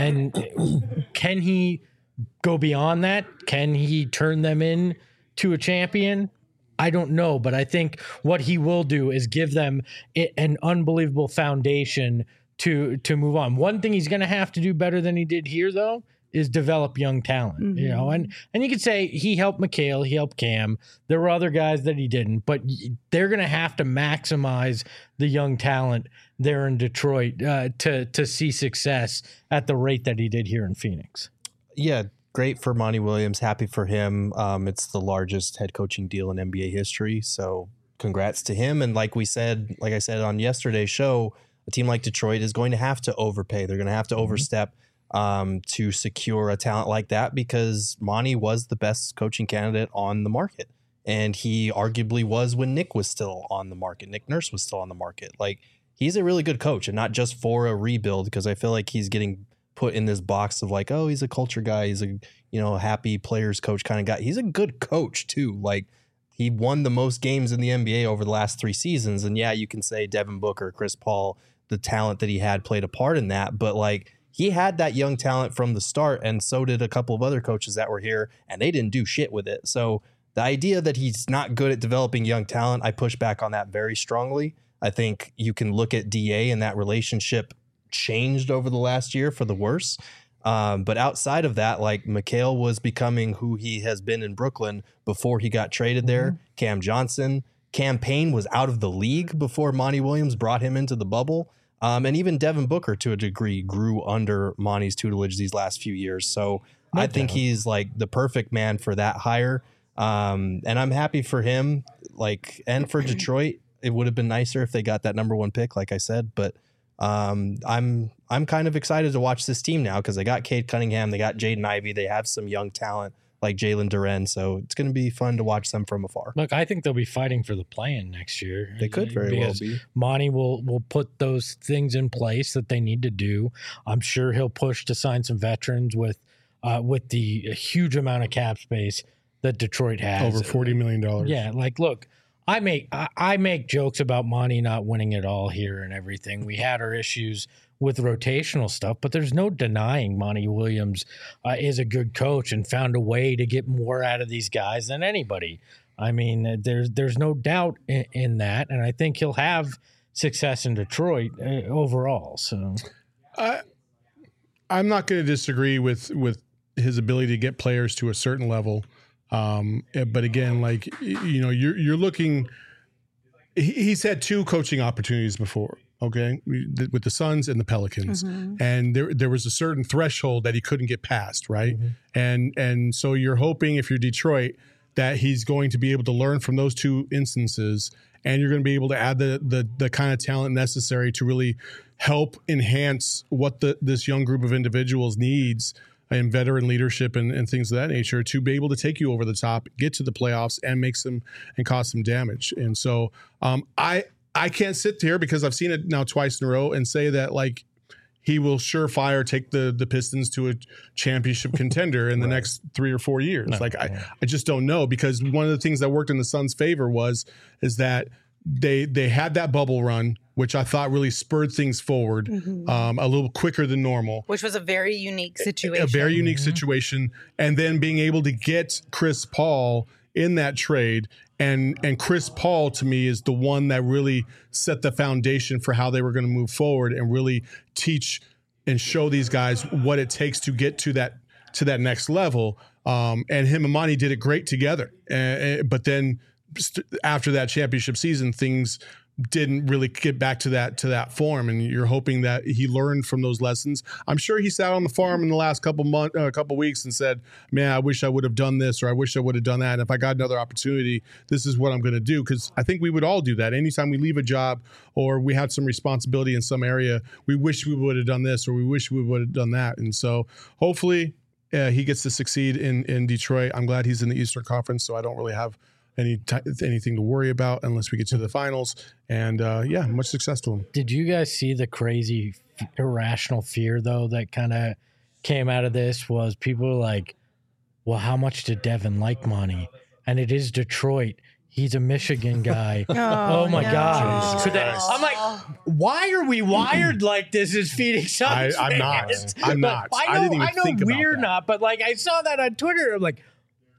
Speaker 3: And can he go beyond that? Can he turn them in to a champion? I don't know, but I think what he will do is give them an unbelievable foundation to to move on. One thing he's going to have to do better than he did here, though, is develop young talent. Mm-hmm. You know, and and you could say he helped McHale, he helped Cam. There were other guys that he didn't, but they're going to have to maximize the young talent there in Detroit uh, to to see success at the rate that he did here in Phoenix.
Speaker 5: Yeah. Great for Monty Williams. Happy for him. Um, it's the largest head coaching deal in N B A history. So congrats to him. And like we said, like I said on yesterday's show, a team like Detroit is going to have to overpay. They're going to have to mm-hmm. overstep um, to secure a talent like that because Monty was the best coaching candidate on the market. And he arguably was when Nick was still on the market. Nick Nurse was still on the market. Like, he's a really good coach, and not just for a rebuild, because I feel like he's getting put in this box of like, oh, he's a culture guy. He's a, you know, happy players coach kind of guy. He's a good coach too. Like, he won the most games in the N B A over the last three seasons. And yeah, you can say Devin Booker, Chris Paul, the talent that he had played a part in that. But like, he had that young talent from the start, and so did a couple of other coaches that were here, and they didn't do shit with it. So the idea that he's not good at developing young talent, I push back on that very strongly. I think you can look at D A, and that relationship changed over the last year for the worse. Um, but outside of that, like, McHale was becoming who he has been in Brooklyn before he got traded there. Mm-hmm. Cam Johnson, Cam Payne was out of the league before Monty Williams brought him into the bubble. Um, and even Devin Booker, to a degree, grew under Monty's tutelage these last few years. So no I think doubt. he's like the perfect man for that hire. Um, and I'm happy for him, like, and for Detroit. It would have been nicer if they got that number one pick, like I said, but Um, I'm I'm kind of excited to watch this team now because they got Cade Cunningham, they got Jaden Ivey, they have some young talent like Jalen Duren, so it's going to be fun to watch them from afar.
Speaker 3: Look, I think they'll be fighting for the play-in next year.
Speaker 5: They could very well be.
Speaker 3: Monty will will put those things in place that they need to do. I'm sure he'll push to sign some veterans with uh, with the huge amount of cap space that Detroit has.
Speaker 4: Over forty million dollars.
Speaker 3: Yeah, like, look, I make I, I make jokes about Monty not winning it all here and everything. We had our issues with rotational stuff, but there's no denying Monty Williams uh, is a good coach and found a way to get more out of these guys than anybody. I mean, there's there's no doubt in, in that, and I think he'll have success in Detroit uh, overall. So,
Speaker 4: I I'm not going to disagree with with his ability to get players to a certain level. Um, but again, like, you know, you're, you're looking, he, he's had two coaching opportunities before, okay, with the Suns and the Pelicans. Mm-hmm. And there, there was a certain threshold that he couldn't get past. Right. Mm-hmm. And, and so you're hoping, if you're Detroit, that he's going to be able to learn from those two instances, and you're going to be able to add the, the, the kind of talent necessary to really help enhance what the, this young group of individuals needs and veteran leadership and, and things of that nature to be able to take you over the top, get to the playoffs, and make some and cause some damage. And so um, I I can't sit here because I've seen it now twice in a row and say that, like, he will surefire take the the Pistons to a championship contender in the right. next three or four years. No, like I, yeah. I just don't know, because one of the things that worked in the Suns' favor was is that they they had that bubble run, which I thought really spurred things forward mm-hmm. um, a little quicker than normal.
Speaker 2: Which was a very unique situation.
Speaker 4: A, a very unique mm-hmm. situation. And then being able to get Chris Paul in that trade. And and Chris Paul, to me, is the one that really set the foundation for how they were going to move forward and really teach and show these guys what it takes to get to that to that next level. Um, and him and Monty did it great together. Uh, but then after that championship season, things didn't really get back to that to that form, and you're hoping that he learned from those lessons. I'm sure he sat on the farm in the last couple month, uh, couple weeks, and said, "Man, I wish I would have done this, or I wish I would have done that. And if I got another opportunity, this is what I'm going to do." Because I think we would all do that. Anytime we leave a job or we have some responsibility in some area, we wish we would have done this, or we wish we would have done that. And so, hopefully, uh, he gets to succeed in in Detroit. I'm glad he's in the Eastern Conference, so I don't really have any t- anything to worry about unless we get to the finals. And uh, yeah, much success to him.
Speaker 3: Did you guys see the crazy f- irrational fear though that kind of came out of this? Was people were like, well, how much did Devin like Monty? And it is Detroit. He's a Michigan guy.
Speaker 2: Oh,
Speaker 3: oh my
Speaker 2: no.
Speaker 3: God. So that, I'm like, why are we wired like this as Phoenix
Speaker 4: I,
Speaker 3: Suns
Speaker 4: I'm not.
Speaker 3: fans?
Speaker 4: I'm not.
Speaker 3: I, know,
Speaker 4: I didn't even
Speaker 3: I know
Speaker 4: think about
Speaker 3: we're
Speaker 4: that.
Speaker 3: not, but like I saw that on Twitter. I'm like,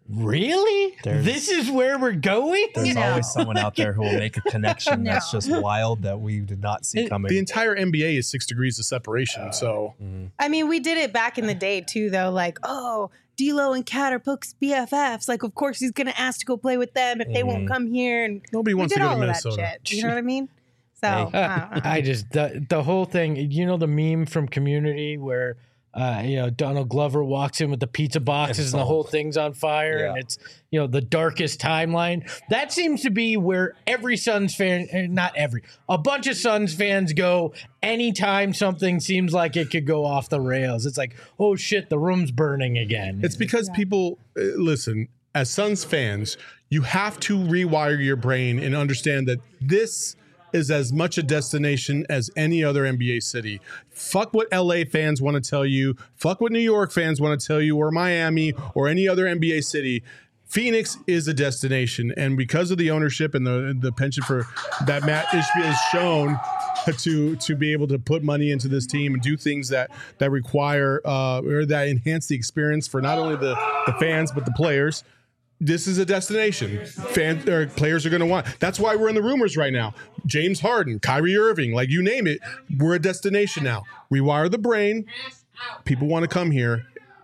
Speaker 3: really?
Speaker 5: There's-
Speaker 3: this is where we're going?
Speaker 5: There's
Speaker 2: No.
Speaker 5: always someone out there who will make a connection
Speaker 2: No.
Speaker 5: that's just wild that we did not see coming.
Speaker 4: The entire N B A is six degrees of separation. So
Speaker 2: I mean, we did it back in the day too, though. Like, oh, D'Lo and Cat are Book's B F Fs. Like, of course he's gonna ask to go play with them if they won't come here. And
Speaker 4: nobody
Speaker 2: we
Speaker 4: wants
Speaker 2: did
Speaker 4: to go
Speaker 2: all
Speaker 4: to
Speaker 2: of
Speaker 4: Minnesota.
Speaker 2: that shit. You know what I mean? So
Speaker 5: Hey.
Speaker 2: I don't know.
Speaker 3: I just the the whole thing. You know the meme from Community where uh, you know Donald Glover walks in with the pizza boxes and the whole thing's on fire,
Speaker 5: Yeah.
Speaker 3: and it's you know the darkest timeline. That seems to be where every Suns fan, eh, not every, a bunch of Suns fans go anytime something seems like it could go off the rails. It's like, oh shit, the room's burning again.
Speaker 4: it's because people uh, listen. As Suns fans, you have to rewire your brain and understand that this is as much a destination as any other N B A city. Fuck what L A fans want to tell you. Fuck what New York fans want to tell you, or Miami, or any other N B A city. Phoenix is a destination, and because of the ownership and the the penchant for that Matt Ishbia has shown to to be able to put money into this team and do things that that require uh, or that enhance the experience for not only the the fans but the players. This is a destination. Fan or players are going to want. That's why we're in the rumors right now. James Harden, Kyrie Irving, like you name it, we're a destination now. Rewire the brain. People want to come here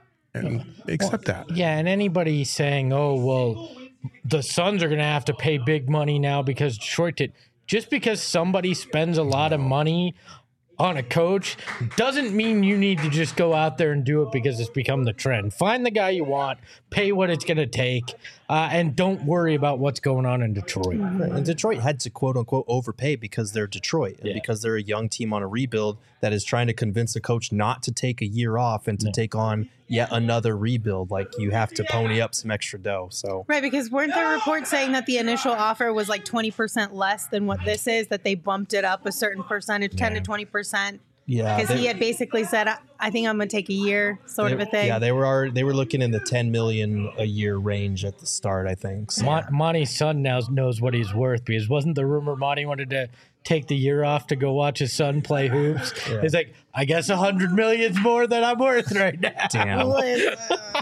Speaker 4: and accept that.
Speaker 3: Yeah, and anybody saying, "Oh, well, the Suns are going to have to pay big money now because Detroit did," just because somebody spends a lot of money on a coach doesn't mean you need to just go out there and do it because it's become the trend. Find the guy you want, pay what it's going to take, uh, and don't worry about what's going on in Detroit.
Speaker 5: And Detroit had to quote unquote overpay because they're Detroit and
Speaker 3: Yeah.
Speaker 5: because they're a young team on a rebuild that is trying to convince a coach not to take a year off and to take on yet another rebuild. Like you have to pony up some extra dough. So
Speaker 2: Right, because weren't there reports saying that the initial offer was like twenty percent less than what this is, that they bumped it up a certain percentage, ten to twenty percent?
Speaker 5: yeah,
Speaker 2: Because
Speaker 5: they-
Speaker 2: he had basically said, I, I think I'm going to take a year, sort
Speaker 5: they-
Speaker 2: of a thing.
Speaker 5: Yeah, they were already, they were looking in the ten million a year range at the start, I think. So.
Speaker 3: Mon- Monty's son now knows what he's worth because wasn't the rumor Monty wanted to take the year off to go watch his son play hoops? He's like, I guess a hundred million's more than I'm worth right now.
Speaker 5: Damn.
Speaker 2: Listen,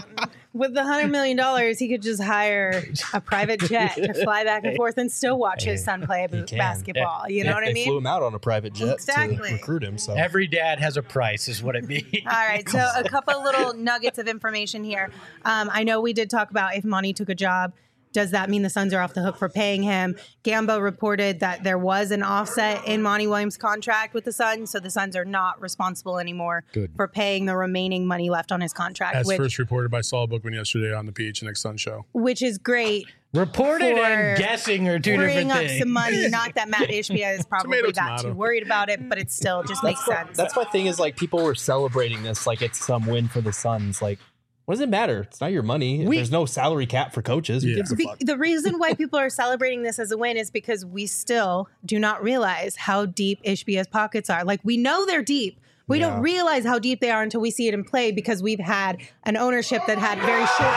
Speaker 2: with the hundred million dollars, he could just hire a private jet to fly back and forth and still watch his son play b-
Speaker 5: can.
Speaker 2: basketball. You know
Speaker 5: If
Speaker 2: what I
Speaker 5: they
Speaker 2: mean?
Speaker 5: flew him out on a private jet
Speaker 2: Exactly.
Speaker 5: to recruit him. So
Speaker 3: Every dad has a price, is what it means.
Speaker 2: All right, so a couple little nuggets of information here. Um, I know we did talk about if Monty took a job, does that mean the Suns are off the hook for paying him? Gambo reported that there was an offset in Monty Williams' contract with the Suns, so the Suns are not responsible anymore
Speaker 3: Good.
Speaker 2: for paying the remaining money left on his contract,
Speaker 4: As
Speaker 2: which,
Speaker 4: first reported by Saul Bookman yesterday on the P H N X Sun show.
Speaker 2: which is great.
Speaker 3: Reported
Speaker 2: For
Speaker 3: and guessing are two
Speaker 2: Freeing
Speaker 3: different
Speaker 2: up
Speaker 3: things.
Speaker 2: some money. Not that Matt Ishbia is probably
Speaker 4: Tomato,
Speaker 2: that
Speaker 4: tomato.
Speaker 2: too worried about it, but it still just makes sense.
Speaker 5: That's my thing is like people were celebrating this like it's some win for the Suns. Like, what does it matter? It's not your money.
Speaker 3: We-
Speaker 5: There's no salary cap for coaches. Who
Speaker 4: Yeah.
Speaker 5: gives a
Speaker 2: The,
Speaker 5: fuck?
Speaker 2: the reason why people are celebrating this as a win is because we still do not realize how deep Ishbia's pockets are. Like, we know they're deep. We
Speaker 5: Yeah.
Speaker 2: don't realize how deep they are until we see it in play because we've had an ownership that had very short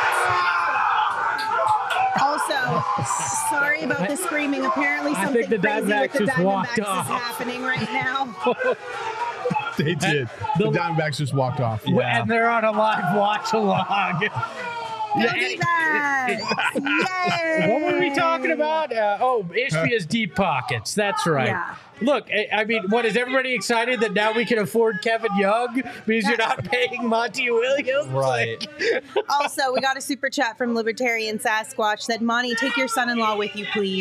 Speaker 2: pockets. Also, sorry about the screaming. Apparently
Speaker 3: I
Speaker 2: something
Speaker 3: think the
Speaker 2: crazy with
Speaker 3: Diamondbacks
Speaker 2: the
Speaker 3: just walked
Speaker 2: Diamondbacks is
Speaker 3: off.
Speaker 2: happening right now.
Speaker 4: They did. The Diamondbacks just walked off.
Speaker 5: Yeah.
Speaker 3: And they're on a live watch along.
Speaker 2: Diamondbacks! Yay!
Speaker 3: What were we talking about? Uh, oh, Ishbia's deep pockets. That's right.
Speaker 2: Yeah.
Speaker 3: Look, I, I mean, what is everybody excited that now we can afford Kevin Young because you're not paying Monty Williams?
Speaker 5: Right.
Speaker 2: Also, we got a super chat from Libertarian Sasquatch that Monty, take your son-in-law with you, please.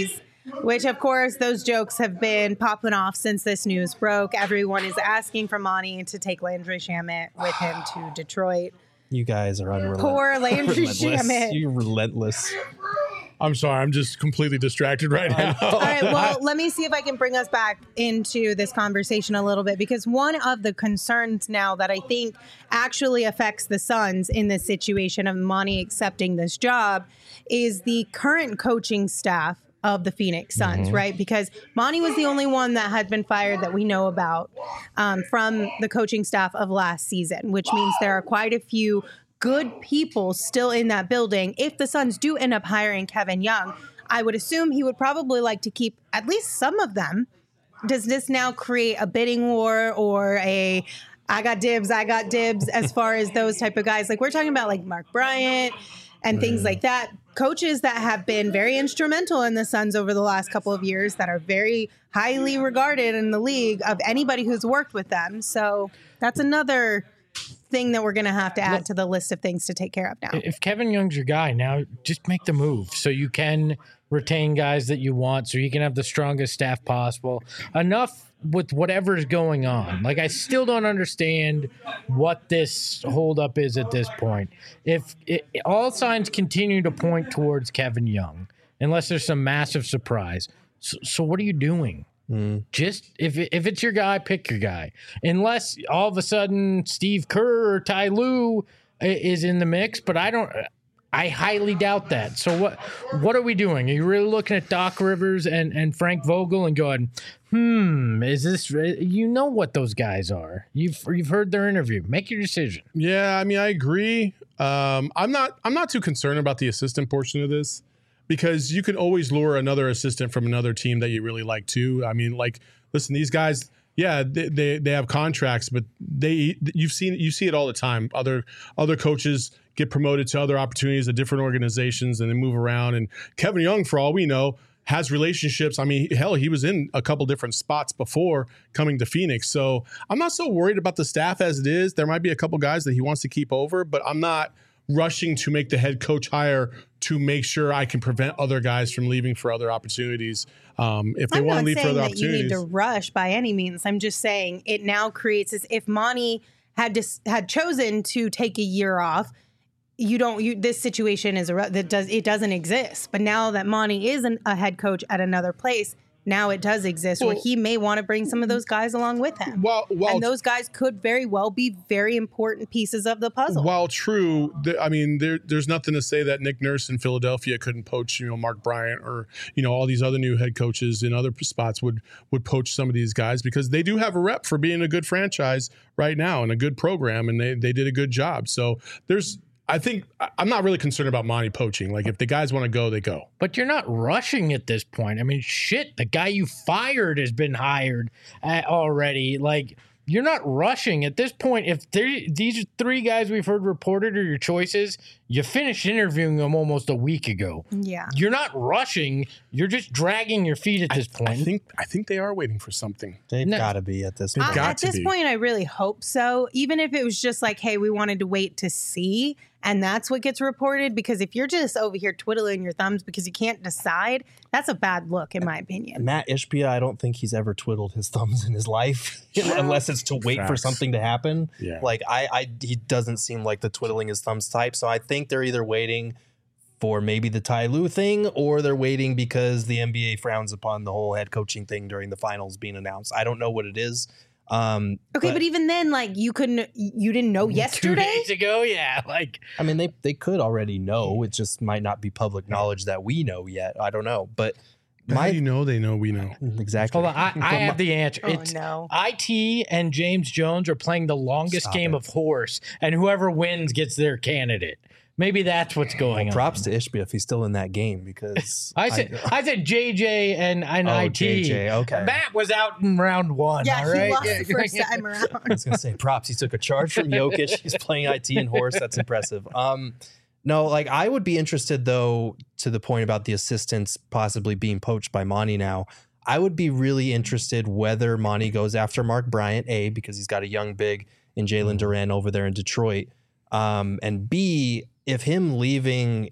Speaker 2: which of course those jokes have been popping off since this news broke. Everyone is asking for Monty to take Landry Shamet with him to Detroit.
Speaker 5: You guys are unrelentless.
Speaker 2: Poor Landry
Speaker 5: relentless.
Speaker 2: Shamet.
Speaker 5: You're relentless.
Speaker 4: I'm sorry. I'm just completely distracted right now.
Speaker 2: All right, well, let me see if I can bring us back into this conversation a little bit, because one of the concerns now that I think actually affects the Suns in this situation of Monty accepting this job is the current coaching staff of the Phoenix Suns, mm-hmm. right? Because Monty was the only one that had been fired that we know about um, from the coaching staff of last season, which means there are quite a few good people still in that building. If the Suns do end up hiring Kevin Young, I would assume he would probably like to keep at least some of them. Does this now create a bidding war or a I got dibs, I got dibs as far as those type of guys? Like we're talking about like Mark Bryant and things like that. Coaches that have been very instrumental in the Suns over the last couple of years that are very highly regarded in the league of anybody who's worked with them. So that's another thing that we're going to have to add to the list of things to take care of now.
Speaker 3: If Kevin Young's your guy, now just make the move so you can retain guys that you want, so you can have the strongest staff possible. Enough with whatever's going on. Like, I still don't understand what this holdup is at this point. If it, all signs continue to point towards Kevin Young, unless there's some massive surprise. So, so what are you doing? Mm. Just if it, if it's your guy, pick your guy. Unless all of a sudden Steve Kerr or Ty Lue is in the mix, but I don't. I highly doubt that. So what what are we doing? Are you really looking at Doc Rivers and, and Frank Vogel and going, hmm, is this? You know what those guys are. You've you've heard their interview. Make your decision.
Speaker 4: Yeah, I mean, I agree. Um, I'm not I'm not too concerned about the assistant portion of this, because you can always lure another assistant from another team that you really like too. I mean, like, listen, these guys, yeah, they, they they have contracts, but they you've seen you see it all the time. Other other coaches get promoted to other opportunities at different organizations and they move around. And Kevin Young, for all we know, has relationships. I mean, hell, he was in a couple different spots before coming to Phoenix. So I'm not so worried about the staff as it is. There might be a couple guys that he wants to keep over, but I'm not rushing to make the head coach hire to make sure I can prevent other guys from leaving for other opportunities. Um, if they want to leave for other opportunities. I'm not saying that you need to
Speaker 2: rush by any means. I'm just saying it now creates as if Monty had to, had chosen to take a year off. You don't. You this situation is a, that does it doesn't exist. But now that Monty is an, a head coach at another place, now it does exist, well, where he may want to bring some of those guys along with him.
Speaker 4: Well, well,
Speaker 2: and those guys could very well be very important pieces of the puzzle.
Speaker 4: While true, th- I mean, there, there's nothing to say that Nick Nurse in Philadelphia couldn't poach, you know, Mark Bryant, or, you know, all these other new head coaches in other spots would would poach some of these guys, because they do have a rep for being a good franchise right now and a good program, and they they did a good job. So there's. I think I'm not really concerned about Monty poaching. Like, if the guys want to go, they go.
Speaker 3: But you're not rushing at this point. I mean, shit, the guy you fired has been hired already. Like, you're not rushing at this point. If these three guys we've heard reported are your choices, you finished interviewing them almost a week ago.
Speaker 2: Yeah,
Speaker 3: you're not rushing. You're just dragging your feet at this
Speaker 4: I,
Speaker 3: point.
Speaker 4: I think I think they are waiting for something.
Speaker 5: They've
Speaker 3: no.
Speaker 5: got to be at this
Speaker 4: They've
Speaker 5: point.
Speaker 4: got
Speaker 2: at
Speaker 4: to
Speaker 2: this
Speaker 4: be.
Speaker 2: point, I really hope so. Even if it was just like, hey, we wanted to wait to see, and that's what gets reported. Because if you're just over here twiddling your thumbs because you can't decide, that's a bad look, in my opinion.
Speaker 5: Matt Ishbia, I don't think he's ever twiddled his thumbs in his life, unless it's to wait
Speaker 4: Facts.
Speaker 5: for something to happen.
Speaker 4: Yeah.
Speaker 5: Like I, I, he doesn't seem like the twiddling his thumbs type. So I think they're either waiting for maybe the Ty Lue thing, or they're waiting because the N B A frowns upon the whole head coaching thing during the finals being announced. I don't know what it is. Um,
Speaker 2: okay, but, but even then, like, you couldn't, you didn't know yesterday?
Speaker 3: Two days ago, yeah. Like,
Speaker 5: I mean, they they could already know. It just might not be public knowledge that we know yet. I don't know, but
Speaker 4: How do you know they know we know?
Speaker 5: Exactly.
Speaker 3: Hold on, I, I have the answer.
Speaker 2: Oh,
Speaker 3: It's
Speaker 2: no.
Speaker 3: I T and James Jones are playing the longest
Speaker 5: Stop
Speaker 3: game
Speaker 5: it.
Speaker 3: of horse, and whoever wins gets their candidate. Maybe that's what's going
Speaker 5: Well,
Speaker 3: on.
Speaker 5: props to Ishbia if he's still in that game, because
Speaker 3: I said I, said J J and, and
Speaker 5: Oh,
Speaker 3: I T.
Speaker 5: J J, okay.
Speaker 3: Matt was out in round one.
Speaker 2: Yeah,
Speaker 3: all right?
Speaker 2: he lost
Speaker 3: Yeah.
Speaker 2: the first time around.
Speaker 5: I was gonna say props. He took a charge from Jokic. He's playing I T and horse. That's impressive. Um, no, like I would be interested though, to the point about the assistants possibly being poached by Monty now. I would be really interested whether Monty goes after Mark Bryant, A, because he's got a young big in Jalen Duran over there in Detroit, um, and B, if him leaving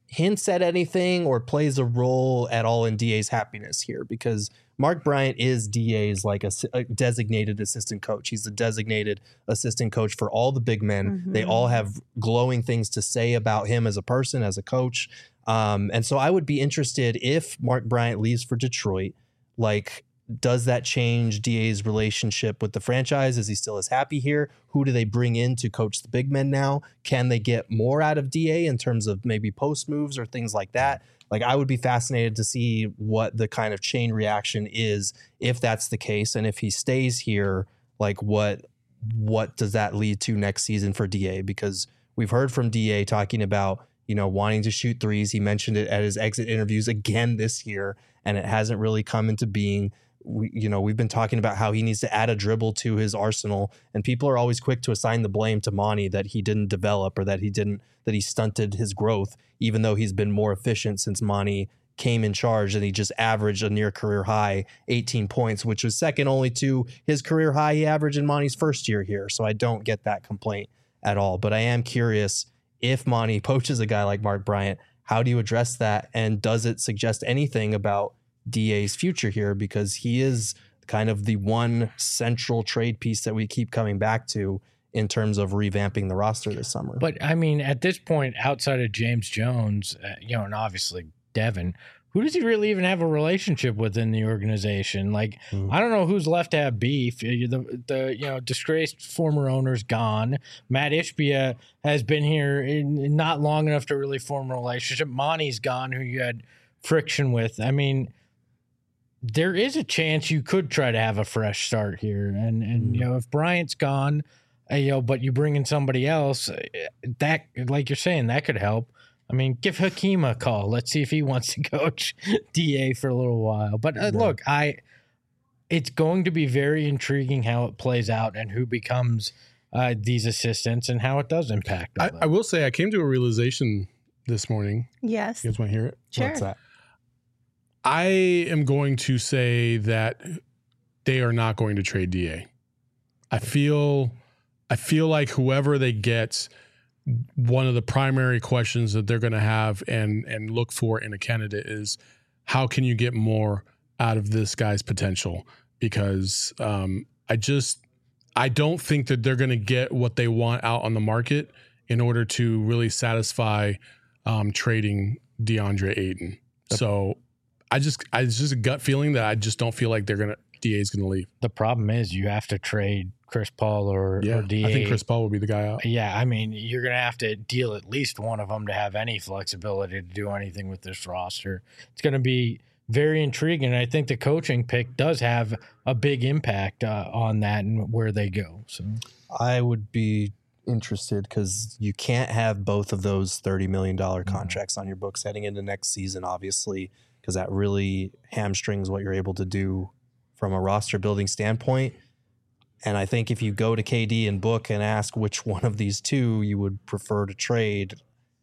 Speaker 5: hints at anything or plays a role at all in D A's happiness here, because Mark Bryant is D A's like a, a designated assistant coach. He's the designated assistant coach for all the big men.
Speaker 2: Mm-hmm.
Speaker 5: They all have glowing things to say about him as a person, as a coach. Um, and so I would be interested if Mark Bryant leaves for Detroit, like, does that change D A's relationship with the franchise? Is he still as happy here? Who do they bring in to coach the big men now? Can they get more out of D A in terms of maybe post moves or things like that? Like, I would be fascinated to see what the kind of chain reaction is if that's the case. And if he stays here, like, what what does that lead to next season for D A? Because we've heard from D A talking about, you know, wanting to shoot threes. He mentioned it at his exit interviews again this year, and it hasn't really come into being. We, you know, we've been talking about how he needs to add a dribble to his arsenal, and people are always quick to assign the blame to Monty that he didn't develop or that he didn't, that he stunted his growth, even though he's been more efficient since Monty came in charge, and he just averaged a near career high eighteen points, which was second only to his career high he averaged in Monty's first year here. So I don't get that complaint at all, but I am curious if Monty poaches a guy like Mark Bryant, how do you address that? And does it suggest anything about D A's future here, because he is kind of the one central trade piece that we keep coming back to in terms of revamping the roster this summer.
Speaker 3: But I mean, at this point, outside of James Jones, uh, you know, and obviously Devin, who does he really even have a relationship with in the organization? Like, mm. I don't know who's left to have beef. The, the you know, disgraced former owner's gone. Matt Ishbia has been here in, not long enough to really form a relationship. Monty's gone, who you had friction with. I mean, there is a chance you could try to have a fresh start here. And, and you know, if Bryant's gone, uh, you know, but you bring in somebody else, that, like you're saying, that could help. I mean, give Hakeem a call. Let's see if he wants to coach D A for a little while. But uh, look, I, it's going to be very intriguing how it plays out and who becomes uh, these assistants and how it does impact.
Speaker 4: I, I will say I came to a realization this morning.
Speaker 2: Yes.
Speaker 4: You guys want to hear it?
Speaker 2: Sure.
Speaker 5: What's that?
Speaker 4: I am going to say that they are not going to trade D A. I feel, I feel like whoever they get, one of the primary questions that they're going to have and and look for in a candidate is, how can you get more out of this guy's potential? Because um, I just, I don't think that they're going to get what they want out on the market in order to really satisfy um, trading DeAndre Ayton. So I just, I, it's just a gut feeling that I just don't feel like they're going to, D A is going to leave.
Speaker 3: The problem is you have to trade Chris Paul or,
Speaker 4: yeah,
Speaker 3: or D A.
Speaker 4: I think Chris Paul will be the guy out.
Speaker 3: Yeah, I mean, you're going to have to deal at least one of them to have any flexibility to do anything with this roster. It's going to be very intriguing. I think the coaching pick does have a big impact uh, on that and where they go. So
Speaker 5: I would be interested because you can't have both of those thirty million dollars contracts mm-hmm. on your books heading into next season, obviously, because that really hamstrings what you're able to do from a roster building standpoint. And I think if you go to K D and Book and ask which one of these two you would prefer to trade,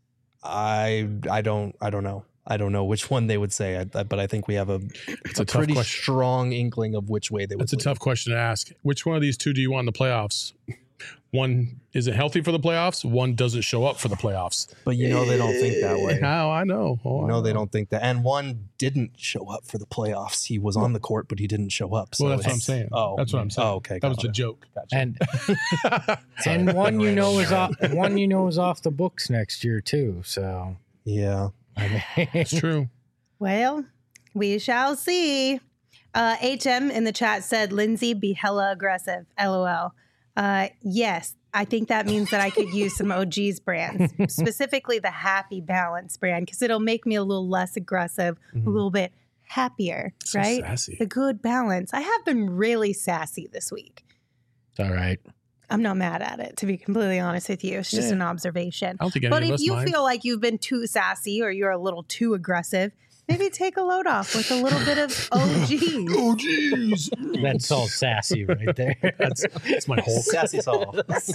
Speaker 5: I I don't I don't know. I don't know which one they would say, I, I, but I think we have a,
Speaker 4: it's
Speaker 5: a,
Speaker 4: a tough
Speaker 5: pretty
Speaker 4: question.
Speaker 5: strong inkling of which way they would.
Speaker 4: That's a
Speaker 5: lead.
Speaker 4: tough question to ask. Which one of these two do you want in the playoffs? One isn't healthy for the playoffs. One doesn't show up for the playoffs.
Speaker 5: But you know they don't think that way.
Speaker 4: How I know. Oh,
Speaker 5: You know
Speaker 4: I
Speaker 5: they don't think that. And one didn't show up for the playoffs. He was on the court, but he didn't show up. So
Speaker 4: Well, that's what I'm
Speaker 5: it's-
Speaker 4: saying.
Speaker 5: Oh,
Speaker 4: that's what I'm saying.
Speaker 5: Oh, okay.
Speaker 4: That was
Speaker 5: gotcha.
Speaker 4: a joke.
Speaker 5: Gotcha.
Speaker 3: and and one you know is off one you know is off the books next year too. So
Speaker 5: Yeah.
Speaker 3: I mean,
Speaker 4: It's true.
Speaker 2: Well, we shall see. Uh, H M in the chat said, Lindsay, be hella aggressive. LOL. Uh, yes, I think that means that I could use some O G's brands, specifically the Happy Balance brand, because it'll make me a little less aggressive,
Speaker 5: Mhm.
Speaker 2: a little bit happier,
Speaker 4: So
Speaker 2: right?
Speaker 4: sassy.
Speaker 2: The good balance. I have been really sassy this week.
Speaker 3: it's all right.
Speaker 2: I'm not mad at it, to be completely honest with you. It's just
Speaker 4: Yeah.
Speaker 2: an observation.
Speaker 4: I don't think any
Speaker 2: But
Speaker 4: of
Speaker 2: if
Speaker 4: us
Speaker 2: you
Speaker 4: mind.
Speaker 2: feel like you've been too sassy or you're a little too aggressive, maybe take a load off with a little bit of O G.
Speaker 4: Oh, geez.
Speaker 3: That's all sassy right there.
Speaker 4: That's, that's my whole.
Speaker 5: Sassy Saul.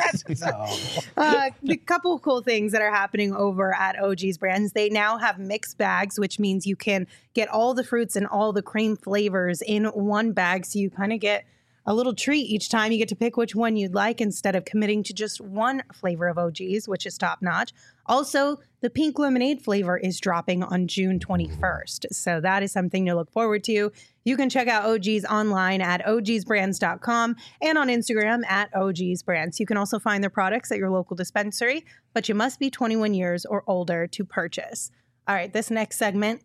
Speaker 2: uh, the couple of cool things that are happening over at O G's Brands. They now have mixed bags, which means you can get all the fruits and all the cream flavors in one bag. So you kind of get a little treat each time. You get to pick which one you'd like instead of committing to just one flavor of O G's, which is top notch. Also, the pink lemonade flavor is dropping on June twenty-first. So that is something to look forward to. You can check out O G's online at O Gs brands dot com and on Instagram at O Gs brands. You can also find their products at your local dispensary, but you must be twenty-one years or older to purchase. All right, this next segment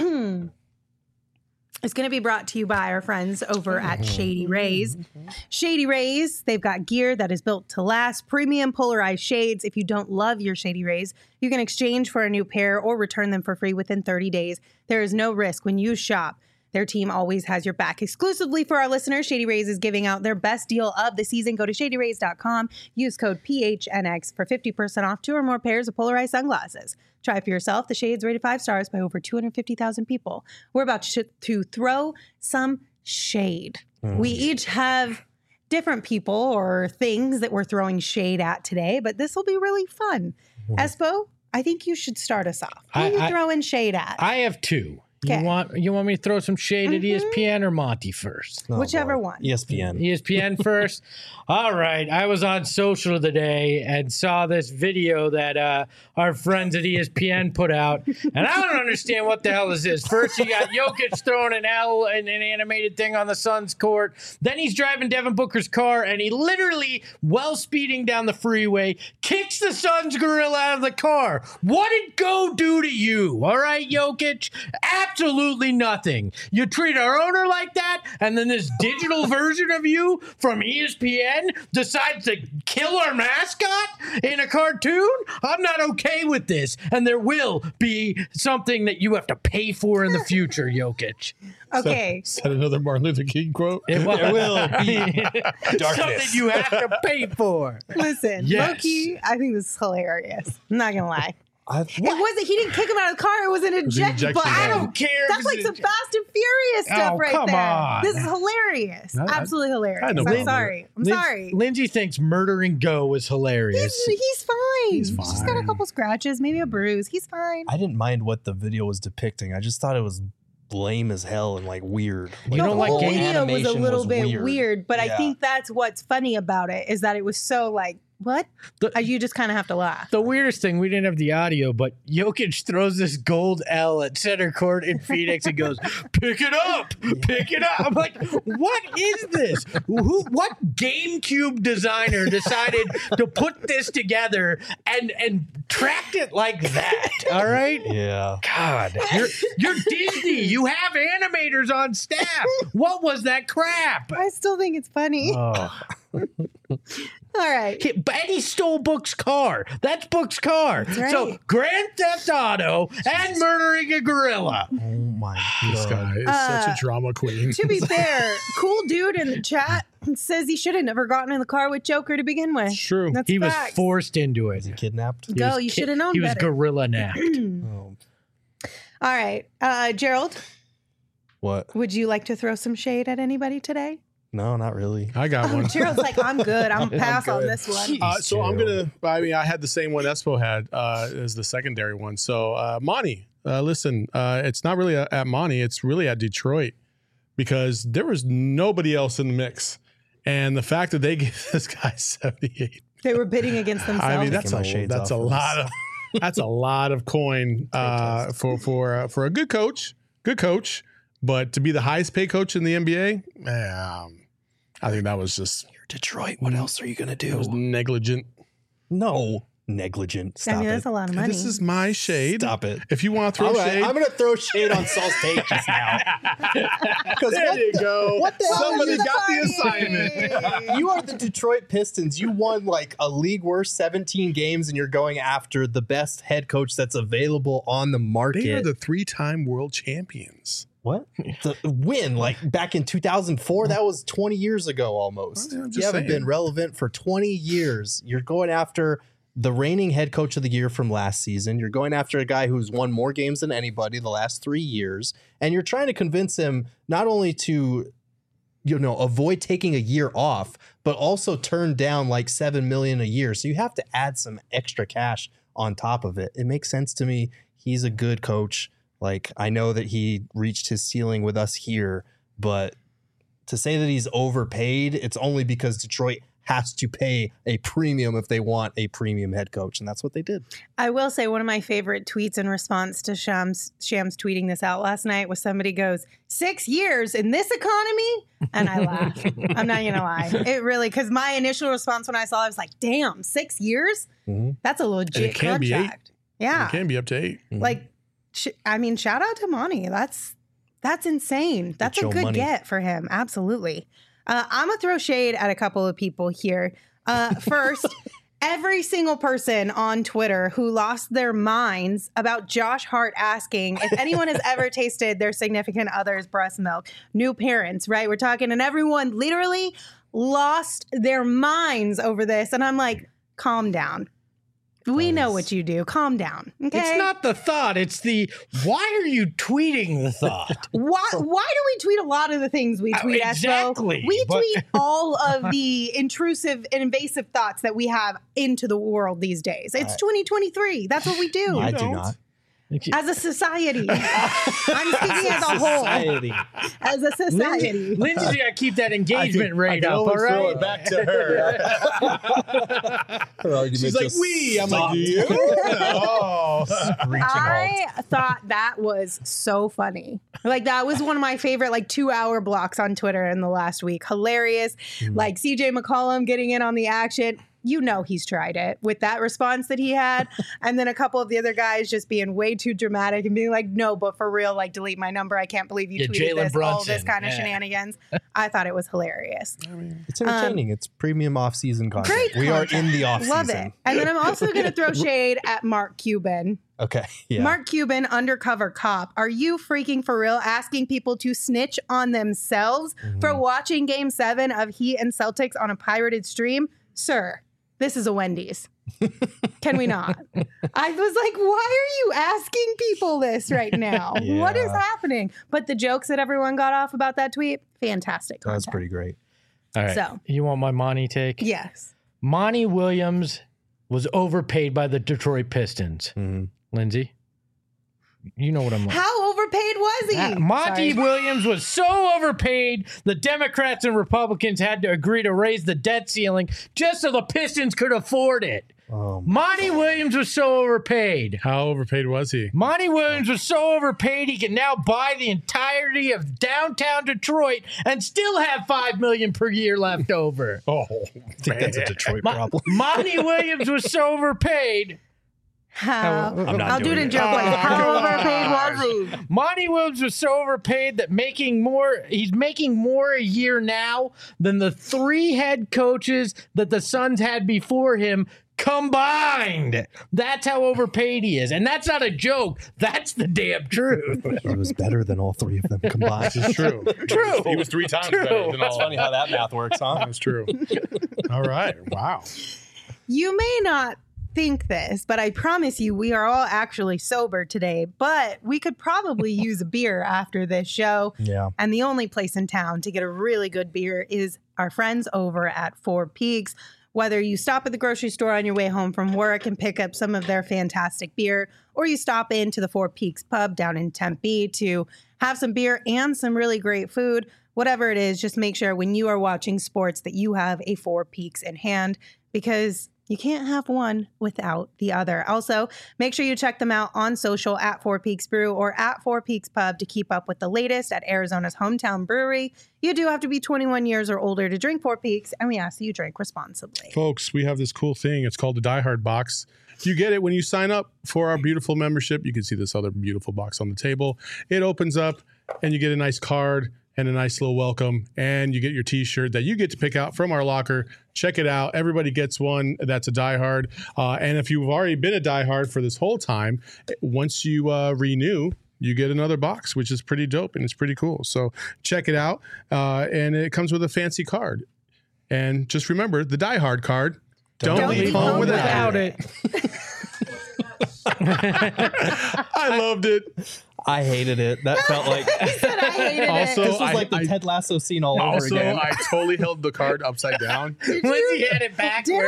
Speaker 2: is going to be brought to you by our friends over at Shady Rays. Shady Rays, they've got gear that is built to last, premium polarized shades. If you don't love your Shady Rays, you can exchange for a new pair or return them for free within thirty days. There is no risk when you shop. Their team always has your back. Exclusively for our listeners, Shady Rays is giving out their best deal of the season. Go to shady rays dot com. Use code P H N X for fifty percent off two or more pairs of polarized sunglasses. Try for yourself. The shades rated five stars by over two hundred fifty thousand people. We're about to, to throw some shade. Mm. We each have different people or things that we're throwing shade at today, but this will be really fun. Mm. Espo, I think you should start us off. Who
Speaker 3: I,
Speaker 2: are you
Speaker 3: I,
Speaker 2: throwing shade at?
Speaker 3: I have two.
Speaker 2: Okay.
Speaker 3: You want you want me to throw some shade
Speaker 2: Mm-hmm.
Speaker 3: at E S P N or Monty first?
Speaker 5: Oh,
Speaker 2: Whichever
Speaker 5: boy.
Speaker 2: one.
Speaker 5: E S P N.
Speaker 3: E S P N first. All right. I was on social today and saw this video that uh, our friends at E S P N put out, and I don't understand what the hell this is. First, you got Jokic throwing an L and an animated thing on the Suns court. Then he's driving Devin Booker's car, and he literally, while speeding down the freeway, kicks the Suns gorilla out of the car. What did Go do to you? All right, Jokic? Absolutely nothing. You treat our owner like that, and then this digital version of you from E S P N decides to kill our mascot in a cartoon? I'm not okay with this, and there will be something that you have to pay for in the future, Jokic.
Speaker 2: Okay.
Speaker 4: Is that another Martin Luther King quote?
Speaker 3: It will,
Speaker 5: There will be
Speaker 3: something you have to pay for.
Speaker 2: Listen,
Speaker 3: Yes.
Speaker 2: Loki, I think this is hilarious. I'm not gonna lie.
Speaker 5: I've,
Speaker 2: It wasn't. He didn't kick him out of the car. It was an
Speaker 4: was an
Speaker 2: eject
Speaker 4: ejection
Speaker 2: button.
Speaker 4: button.
Speaker 3: I don't care. if
Speaker 2: That's
Speaker 3: it's
Speaker 2: like
Speaker 3: a-
Speaker 2: some Fast and Furious stuff
Speaker 3: Oh,
Speaker 2: right
Speaker 3: come
Speaker 2: there.
Speaker 3: on.
Speaker 2: This is hilarious.
Speaker 4: I- I-
Speaker 2: Absolutely hilarious.
Speaker 4: I had no
Speaker 2: I'm
Speaker 4: problem with
Speaker 2: sorry. I'm
Speaker 3: Lin-
Speaker 2: sorry.
Speaker 3: Lindsay thinks murdering Go is hilarious.
Speaker 2: He's, he's fine.
Speaker 4: He's
Speaker 2: He's just got a
Speaker 4: fine.
Speaker 2: couple scratches, maybe a bruise. He's fine.
Speaker 5: I didn't mind what the video was depicting. I just thought it was lame as hell and like weird.
Speaker 3: You
Speaker 2: the
Speaker 3: don't like
Speaker 2: whole
Speaker 3: game
Speaker 2: video was a
Speaker 5: animation
Speaker 2: little
Speaker 5: was
Speaker 2: bit
Speaker 5: weird.
Speaker 2: weird, but I
Speaker 5: Yeah.
Speaker 2: think that's what's funny about it is that it was so like, what?
Speaker 3: The-
Speaker 2: Uh, you just kind of have to laugh.
Speaker 3: The weirdest thing, we didn't have the audio, but Jokic throws this gold L at center court in Phoenix and goes, pick it up, pick it up. I'm like, what is this? Who? What GameCube designer decided to put this together and and tracked it like that? All right?
Speaker 5: Yeah.
Speaker 3: God, you're, you're Disney. You have animators on staff. What was that crap?
Speaker 2: I still think it's funny.
Speaker 3: Oh.
Speaker 2: All right.
Speaker 3: He- But he stole Book's car. That's Book's car.
Speaker 2: right.
Speaker 3: So Grand Theft Auto and murdering a gorilla.
Speaker 5: Oh my
Speaker 4: This
Speaker 5: god.
Speaker 4: guy is
Speaker 2: Uh,
Speaker 4: such a drama queen.
Speaker 2: To be fair, cool dude in the chat says he should have never gotten in the car with Joker to begin with.
Speaker 4: It's true.
Speaker 2: That's
Speaker 3: He was
Speaker 2: facts.
Speaker 3: forced into it.
Speaker 5: Is he kidnapped?
Speaker 3: He
Speaker 2: Go,
Speaker 3: was
Speaker 2: you
Speaker 3: ki-
Speaker 2: should have known
Speaker 3: He was
Speaker 2: better.
Speaker 3: gorilla napped.
Speaker 5: Oh,
Speaker 2: All right. Uh, Gerald,
Speaker 5: what?
Speaker 2: would you like to throw some shade at anybody today?
Speaker 5: No, not really.
Speaker 4: I got
Speaker 2: Oh,
Speaker 4: one.
Speaker 2: Gerald's like, I'm good. I'm pass on
Speaker 4: good.
Speaker 2: this one.
Speaker 4: Uh, so I'm
Speaker 5: Gerald.
Speaker 4: gonna. I mean, I had the same one Espo had uh, as the secondary one. So uh, Monty, uh, listen, uh, it's not really at, at Monty. It's really at Detroit because there was nobody else in the mix, and the fact that they gave this guy seventy-eight.
Speaker 2: They were bidding against themselves.
Speaker 4: I mean, that's
Speaker 5: Taking
Speaker 4: a
Speaker 5: my shades
Speaker 4: that's a
Speaker 5: off for
Speaker 4: lot
Speaker 5: this.
Speaker 4: of that's a lot of coin uh, for for uh, for a good coach, good coach, but to be the highest paid coach in the N B A, um, I think that was just
Speaker 5: You're Detroit. What else are you gonna
Speaker 4: it was
Speaker 5: do?
Speaker 4: negligent.
Speaker 5: No, negligent. Stop
Speaker 2: I mean,
Speaker 5: it.
Speaker 2: that's a lot of money.
Speaker 4: This is my shade.
Speaker 5: Stop it.
Speaker 4: If you want to throw
Speaker 5: All right,
Speaker 4: shade,
Speaker 5: I'm gonna throw shade on Saul's take just now. Because
Speaker 4: there you go.
Speaker 5: what the hell
Speaker 4: Somebody
Speaker 5: are you
Speaker 4: got the
Speaker 2: funny?
Speaker 4: assignment.
Speaker 5: You are the Detroit Pistons. You won like a league worst seventeen games, and you're going after the best head coach that's available on the market.
Speaker 4: They are the three-time world champions.
Speaker 5: what? The win, like back in two thousand four, that was twenty years ago almost.
Speaker 4: Well, I'm
Speaker 5: You
Speaker 4: just
Speaker 5: haven't
Speaker 4: saying.
Speaker 5: been relevant for twenty years. You're going after the reigning head coach of the year from last season. You're going after a guy who's won more games than anybody the last three years. And you're trying to convince him not only to, you know, avoid taking a year off, but also turn down like seven million a year. So you have to add some extra cash on top of it. It makes sense to me. He's a good coach. Like, I know that he reached his ceiling with us here, but to say that he's overpaid, it's only because Detroit has to pay a premium if they want a premium head coach, and that's what they did.
Speaker 2: I will say one of my favorite tweets in response to Shams, Shams tweeting this out last night was somebody goes, six years in this economy? And I laughed. I'm not going to lie. It really, because my initial response when I saw it, I was like, damn, six years?
Speaker 5: Mm-hmm.
Speaker 2: That's a legit
Speaker 4: And it can be eight.
Speaker 2: contract. Yeah.
Speaker 4: It can be up to eight.
Speaker 5: Mm-hmm.
Speaker 2: Like, sh- I mean, shout out to Monty. That's, that's insane. That's a
Speaker 5: your
Speaker 2: good
Speaker 5: money.
Speaker 2: get for him. Absolutely. Uh, I'm going to throw shade at a couple of people here. Uh, first, every single person on Twitter who lost their minds about Josh Hart asking if anyone has ever tasted their significant other's breast milk. New parents, right? We're talking, and everyone literally lost their minds over this. And I'm like, calm down. We know what you do. Calm down. Okay.
Speaker 3: It's not the thought. It's the, why are you tweeting the thought?
Speaker 2: Why, why do we tweet a lot of the things we
Speaker 3: Uh,
Speaker 2: tweet, Espo?
Speaker 3: exactly,
Speaker 2: We
Speaker 3: but-
Speaker 2: tweet all of the intrusive and invasive thoughts that we have into the world these days. It's twenty twenty-three. That's what we do
Speaker 5: I do
Speaker 4: don't.
Speaker 5: not.
Speaker 2: as a society. I'm speaking as a whole.
Speaker 5: Society.
Speaker 2: As a society.
Speaker 3: Lindsay's got to keep that
Speaker 5: I
Speaker 3: engagement
Speaker 5: can- I
Speaker 3: rate
Speaker 5: can
Speaker 3: up, all
Speaker 5: always throw
Speaker 3: right?
Speaker 5: it back to her. Her argument
Speaker 4: She's like,
Speaker 5: just
Speaker 4: we. I'm like,
Speaker 5: stopped.
Speaker 4: you? Oh.
Speaker 5: Screeching halt.
Speaker 2: I thought that was so funny. Like that was one of my favorite like two hour blocks on Twitter in the last week. Hilarious. Like C J McCollum getting in on the action. You know he's tried it with that response that he had. And then a couple of the other guys just being way too dramatic and being like, no, but for real, like delete my number. I can't believe you
Speaker 3: Yeah,
Speaker 2: tweeted
Speaker 3: Jalen
Speaker 2: this, all this
Speaker 3: Brunson.
Speaker 2: kind of
Speaker 3: Yeah.
Speaker 2: shenanigans. I thought it was hilarious.
Speaker 5: It's entertaining. it's premium off-season content.
Speaker 2: Um, Great
Speaker 5: we are
Speaker 2: content.
Speaker 5: in the off-season.
Speaker 2: Love it. And then I'm also going to throw shade at Mark Cuban.
Speaker 5: Okay. Yeah.
Speaker 2: Mark Cuban, undercover cop. Are you freaking for real asking people to snitch on themselves
Speaker 5: Mm-hmm.
Speaker 2: for watching game seven of Heat and Celtics on a pirated stream? Sir, this is a Wendy's. Can we not? I was like, why are you asking people this right now? What is
Speaker 5: Yeah.
Speaker 2: happening? But the jokes that everyone got off about that tweet, fantastic.
Speaker 5: That's
Speaker 2: content.
Speaker 5: pretty great.
Speaker 3: All right.
Speaker 2: So.
Speaker 3: You want my Monty take?
Speaker 2: Yes.
Speaker 3: Monty Williams was overpaid by the Detroit Pistons.
Speaker 5: Mhm.
Speaker 3: Lindsay, you know what I'm like.
Speaker 2: How overpaid was he?
Speaker 3: Uh, Monty
Speaker 2: Sorry.
Speaker 3: Williams was so overpaid, the Democrats and Republicans had to agree to raise the debt ceiling just so the Pistons could afford it.
Speaker 5: Um,
Speaker 3: Monty Williams was so overpaid.
Speaker 4: How overpaid was he?
Speaker 3: Monty Williams was so overpaid he can now buy the entirety of downtown Detroit and still have five million dollars per year left over.
Speaker 4: Oh,
Speaker 5: I think that's a Detroit
Speaker 3: Mo-
Speaker 5: problem.
Speaker 3: Monty Williams was so overpaid.
Speaker 2: How?
Speaker 5: I'm not
Speaker 2: I'll do it
Speaker 5: doing
Speaker 2: in
Speaker 5: it.
Speaker 2: joke like,
Speaker 3: Oh,
Speaker 2: how
Speaker 3: gosh.
Speaker 2: overpaid was he?
Speaker 3: Monty Williams was so overpaid that making more, he's making more a year now than the three head coaches that the Suns had before him combined. That's how overpaid he is. And that's not a joke. That's the damn truth.
Speaker 5: He was better than all three of them combined.
Speaker 4: It's true.
Speaker 3: True.
Speaker 4: He was three times
Speaker 3: True.
Speaker 4: better than
Speaker 5: That's
Speaker 4: all
Speaker 5: funny how that math works, huh?
Speaker 4: That's true. All right. Wow.
Speaker 2: You may not think this, but I promise you we are all actually sober today, but we could probably use a beer after this show.
Speaker 5: Yeah.
Speaker 2: And the only place in town to get a really good beer is our friends over at Four Peaks. Whether you stop at the grocery store on your way home from work and pick up some of their fantastic beer, or you stop into the Four Peaks pub down in Tempe to have some beer and some really great food, whatever it is, just make sure when you are watching sports that you have a Four Peaks in hand, because you can't have one without the other. Also, make sure you check them out on social at Four Peaks Brew or at Four Peaks Pub to keep up with the latest at Arizona's hometown brewery. You do have to be twenty-one years or older to drink Four Peaks, and we ask that you drink responsibly.
Speaker 4: Folks, we have this cool thing. It's called the Die Hard box. You get it when you sign up for our beautiful membership. You can see this other beautiful box on the table. It opens up and you get a nice card and a nice little welcome, and you get your t-shirt that you get to pick out from our locker. Check it out. Everybody gets one that's a Die Hard. Uh, and if you've already been a Die Hard for this whole time, once you uh, renew, you get another box, which is pretty dope and it's pretty cool. So check it out. Uh, and it comes with a fancy card. And just remember, the Die Hard card, don't,
Speaker 2: Don't
Speaker 4: leave
Speaker 2: leave
Speaker 4: home
Speaker 2: home
Speaker 4: without,
Speaker 3: Without
Speaker 4: it.
Speaker 3: it.
Speaker 4: I loved it.
Speaker 5: I hated it. That felt like
Speaker 2: I hated
Speaker 4: Also,
Speaker 2: it.
Speaker 5: this was
Speaker 4: I-
Speaker 5: like the
Speaker 4: I-
Speaker 5: Ted Lasso scene all over
Speaker 4: Also,
Speaker 5: again.
Speaker 4: I totally held the card upside down.
Speaker 3: Lindsay had it backwards.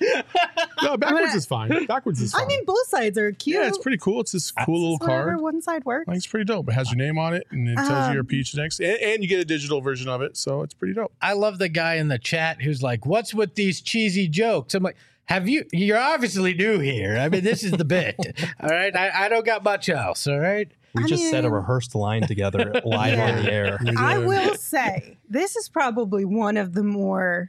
Speaker 4: No, backwards is fine. Backwards is fine.
Speaker 2: I mean, both sides are cute.
Speaker 4: yeah, it's pretty cool. It's this cool little
Speaker 2: Whatever
Speaker 4: card.
Speaker 2: one side works.
Speaker 4: Like, it's pretty dope. It has your name on it, and it tells
Speaker 2: Um,
Speaker 4: you your peach next, and, and you get a digital version of it. So it's pretty dope.
Speaker 3: I love the guy in the chat who's like, "What's with these cheesy jokes?" I'm like, "Have you? You're obviously new here. I mean, this is the bit. All right, I, I don't got much else. All right."
Speaker 5: We
Speaker 2: I
Speaker 5: just said a
Speaker 2: mean-
Speaker 5: rehearsed line together live
Speaker 2: Yeah.
Speaker 5: on the air.
Speaker 2: I will say this is probably one of the more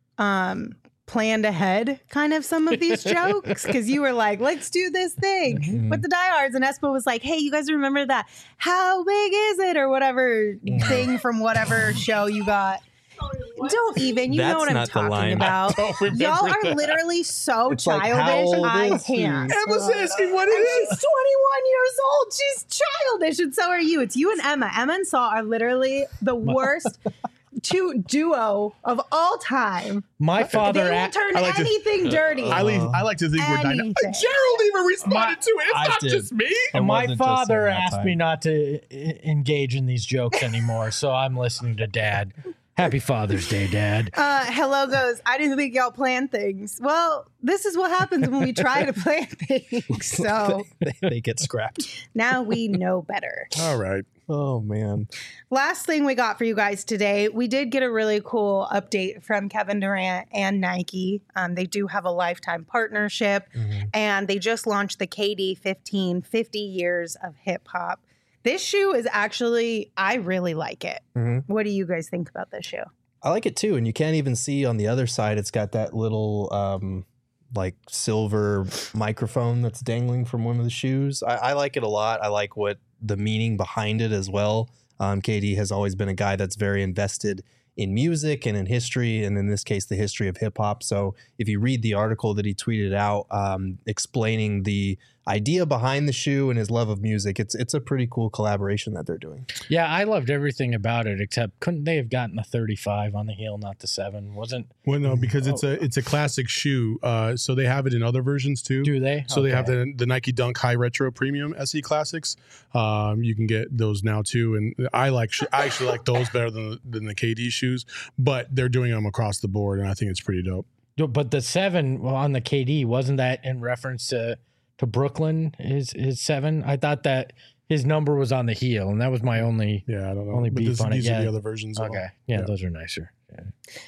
Speaker 2: um, planned ahead kind of some of these jokes because you were like, let's do this thing
Speaker 5: Mhm.
Speaker 2: with the diehards. And Espo was like, hey, you guys remember that? How big is it? Or whatever thing from whatever show you got. Don't even. You know
Speaker 5: That's
Speaker 2: what I'm
Speaker 5: not the
Speaker 2: talking
Speaker 5: line.
Speaker 2: about.
Speaker 4: Don't remember
Speaker 2: Y'all are
Speaker 4: that.
Speaker 2: literally so
Speaker 5: It's like, how
Speaker 2: childish.
Speaker 5: old
Speaker 2: I
Speaker 5: is she?
Speaker 2: can't.
Speaker 4: Emma's asking what it
Speaker 2: And
Speaker 4: is.
Speaker 2: she's twenty-one years old. She's childish, and so are you. It's you and Emma. Emma and Saul are literally the worst two duo of all time.
Speaker 3: My
Speaker 2: They
Speaker 3: father,
Speaker 2: will
Speaker 3: a-
Speaker 2: turn
Speaker 4: I like to-
Speaker 2: anything dirty.
Speaker 4: I, leave, I like to think we're dynamic.
Speaker 2: Anything.
Speaker 4: Gerald even responded to it. It's
Speaker 5: I
Speaker 4: not
Speaker 5: did.
Speaker 4: just me.
Speaker 5: It
Speaker 3: my
Speaker 5: wasn't just
Speaker 3: father
Speaker 5: at that
Speaker 3: asked
Speaker 5: time.
Speaker 3: me not to I- engage in these jokes anymore, so I'm listening to Dad. Happy Father's Day, Dad.
Speaker 2: Uh, hello goes, I didn't think y'all plan things. Well, this is what happens when we try to plan things. So
Speaker 5: they, they get scrapped.
Speaker 2: now we know better.
Speaker 4: All right.
Speaker 5: Oh man.
Speaker 2: Last thing we got for you guys today, we did get a really cool update from Kevin Durant and Nike. Um, they do have a lifetime partnership, and they just launched the K D fifteen, fifty years of hip hop. This shoe is actually, I really like it.
Speaker 5: Mhm.
Speaker 2: What do you guys think about this shoe?
Speaker 5: I like it too, and you can't even see on the other side. It's got that little um, like silver microphone that's dangling from one of the shoes. I, I like it a lot. I like what the meaning behind it as well. Um, K D has always been a guy that's very invested in music and in history, and in this case, the history of hip hop. So if you read the article that he tweeted out um, explaining the idea behind the shoe and his love of music, it's it's a pretty cool collaboration that they're doing.
Speaker 3: Yeah, I loved everything about it, except couldn't they have gotten a thirty-five on the heel, not the seven? Wasn't
Speaker 4: Well, no, because it's
Speaker 2: Oh.
Speaker 4: a it's a classic shoe. Uh, so they have it in other versions too.
Speaker 3: do they?
Speaker 4: So they have
Speaker 3: Okay.
Speaker 4: the the Nike Dunk High Retro Premium S E Classics. Um, you can get those now too, and I like sh- I actually like those better than than the K D shoes. But they're doing them across the board, and I think it's pretty dope.
Speaker 3: But the seven well, on the K D, wasn't that in reference to to Brooklyn? His his seven? I thought that his number was on the heel, and that was my only.
Speaker 4: Yeah, I don't know.
Speaker 3: Only
Speaker 4: but
Speaker 3: beef
Speaker 4: this,
Speaker 3: on it,
Speaker 4: these are
Speaker 3: yeah.
Speaker 4: the other versions. of
Speaker 3: Okay,
Speaker 4: them.
Speaker 3: yeah,
Speaker 4: Yeah.
Speaker 3: those are nicer. Yeah.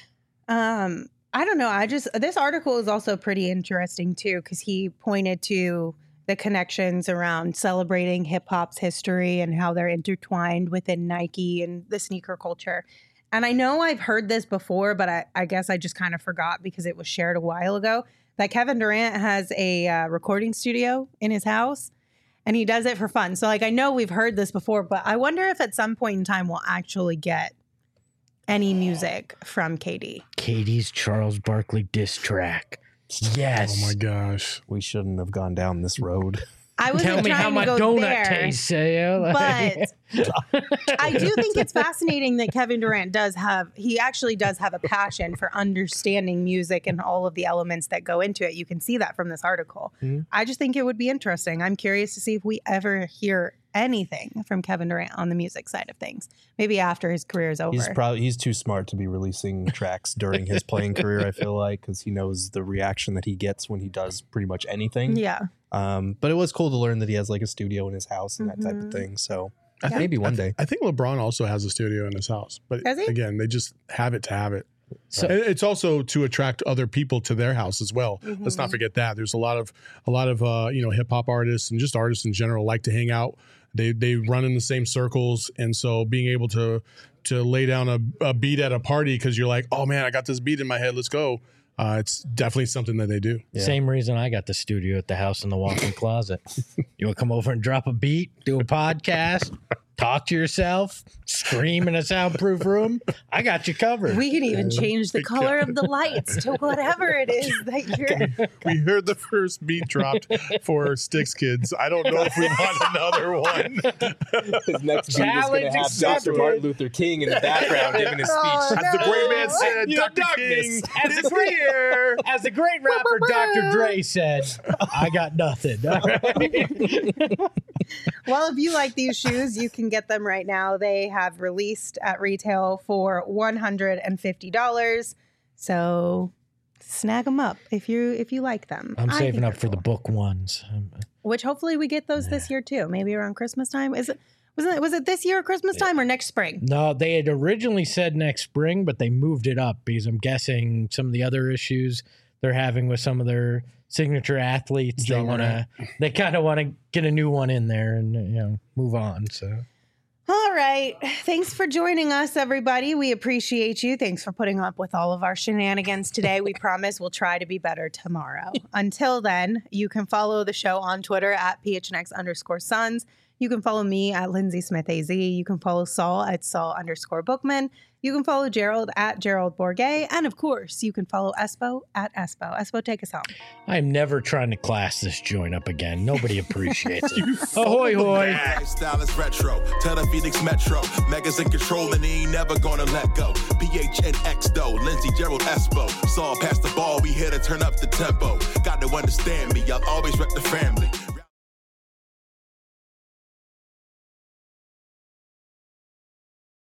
Speaker 2: Um, I don't know. I just, this article is also pretty interesting too, because he pointed to the connections around celebrating hip hop's history and how they're intertwined within Nike and the sneaker culture. And I know I've heard this before, but I, I guess I just kind of forgot because it was shared a while ago that Kevin Durant has a uh, recording studio in his house and he does it for fun. So, like, I know we've heard this before, but I wonder if at some point in time we'll actually get any music from K D.
Speaker 3: K D's Charles Barkley diss track. Yes.
Speaker 4: Oh my gosh.
Speaker 5: We shouldn't have gone down this road.
Speaker 2: I wasn't
Speaker 3: Tell me
Speaker 2: trying
Speaker 3: how
Speaker 2: to
Speaker 3: my
Speaker 2: go
Speaker 3: donut
Speaker 2: there,
Speaker 3: tastes. Saya.
Speaker 2: but I do think it's fascinating that Kevin Durant does have, he actually does have a passion for understanding music and all of the elements that go into it. You can see that from this article.
Speaker 5: Mhm.
Speaker 2: I just think it would be interesting. I'm curious to see if we ever hear anything from Kevin Durant on the music side of things. Maybe after his career is over.
Speaker 5: He's probably he's too smart to be releasing tracks during his playing career. I feel like because he knows the reaction that he gets when he does pretty much anything.
Speaker 2: yeah.
Speaker 5: Um, but it was cool to learn that he has like a studio in his house and that type
Speaker 2: Mhm.
Speaker 5: of thing. So
Speaker 4: I think-
Speaker 5: maybe one
Speaker 4: I
Speaker 5: day.
Speaker 4: I think LeBron also has a studio in his house, but
Speaker 2: Does he?
Speaker 4: again, they just have it to have it.
Speaker 3: So-
Speaker 4: And it's also to attract other people to their house as well. Let's not
Speaker 2: Mhm.
Speaker 4: forget that. There's a lot of a lot of uh, you know hip hop artists and just artists in general like to hang out. They they run in the same circles, and so being able to to lay down a, a beat at a party because you're like, oh man, I got this beat in my head, let's go. Uh, it's definitely something that they do.
Speaker 5: Yeah.
Speaker 3: Same reason I got the studio at the house in the walk-in closet. You want to come over and drop a beat, do a podcast, talk to yourself, scream in a soundproof room? I got you covered.
Speaker 2: We can even change the color of the lights to whatever it is that you're.
Speaker 4: We heard the first beat dropped for Sticks Kids. I don't know if we want another one.
Speaker 5: His next
Speaker 3: Challenge
Speaker 5: beat is going to have
Speaker 3: accepted.
Speaker 5: Doctor Martin Luther King in the background giving his speech.
Speaker 2: Oh,
Speaker 4: As the great man
Speaker 2: no.
Speaker 4: said,
Speaker 3: You know,
Speaker 4: Doctor
Speaker 3: darkness.
Speaker 4: King
Speaker 3: As
Speaker 4: is
Speaker 3: the great-
Speaker 4: here.
Speaker 3: As the great rapper Doctor Dre said, I got nothing. All right?
Speaker 2: Well, if you like these shoes, you can get them right now. They have released at retail for one hundred fifty dollars. So snag them up if you if you like them.
Speaker 3: I'm
Speaker 2: I
Speaker 3: saving
Speaker 2: think
Speaker 3: up
Speaker 2: they're
Speaker 3: for the
Speaker 2: cool.
Speaker 3: book ones. Um,
Speaker 2: Which hopefully we get those this year too. Maybe around Christmas time. Is it wasn't it was it this year Christmas time or next spring?
Speaker 3: No, they had originally said next spring, but they moved it up because I'm guessing some of the other issues they're having with some of their signature athletes. They want to, they kind of want to get a new one in there and, you know, move on. So,
Speaker 2: All right. Thanks for joining us, everybody. We appreciate you. Thanks for putting up with all of our shenanigans today. We promise we'll try to be better tomorrow. Until then, you can follow the show on Twitter at P H N X underscore Suns. You can follow me at Lindsay Smith A Z. You can follow Saul at Saul underscore Bookman. You can follow Gerald at Gerald Bourget. And of course, you can follow Espo at Espo. Espo, take us home.
Speaker 3: I'm never trying to class this joint up again. Nobody appreciates it. Ahoy, hoy.
Speaker 6: Style is retro. Tell the Phoenix Metro. Megas in control and he ain't never gonna let go. P H N X though. Lindsay, Gerald, Espo. Saw past the ball. We here to turn up the tempo. Got to understand me. I'll always rep the family.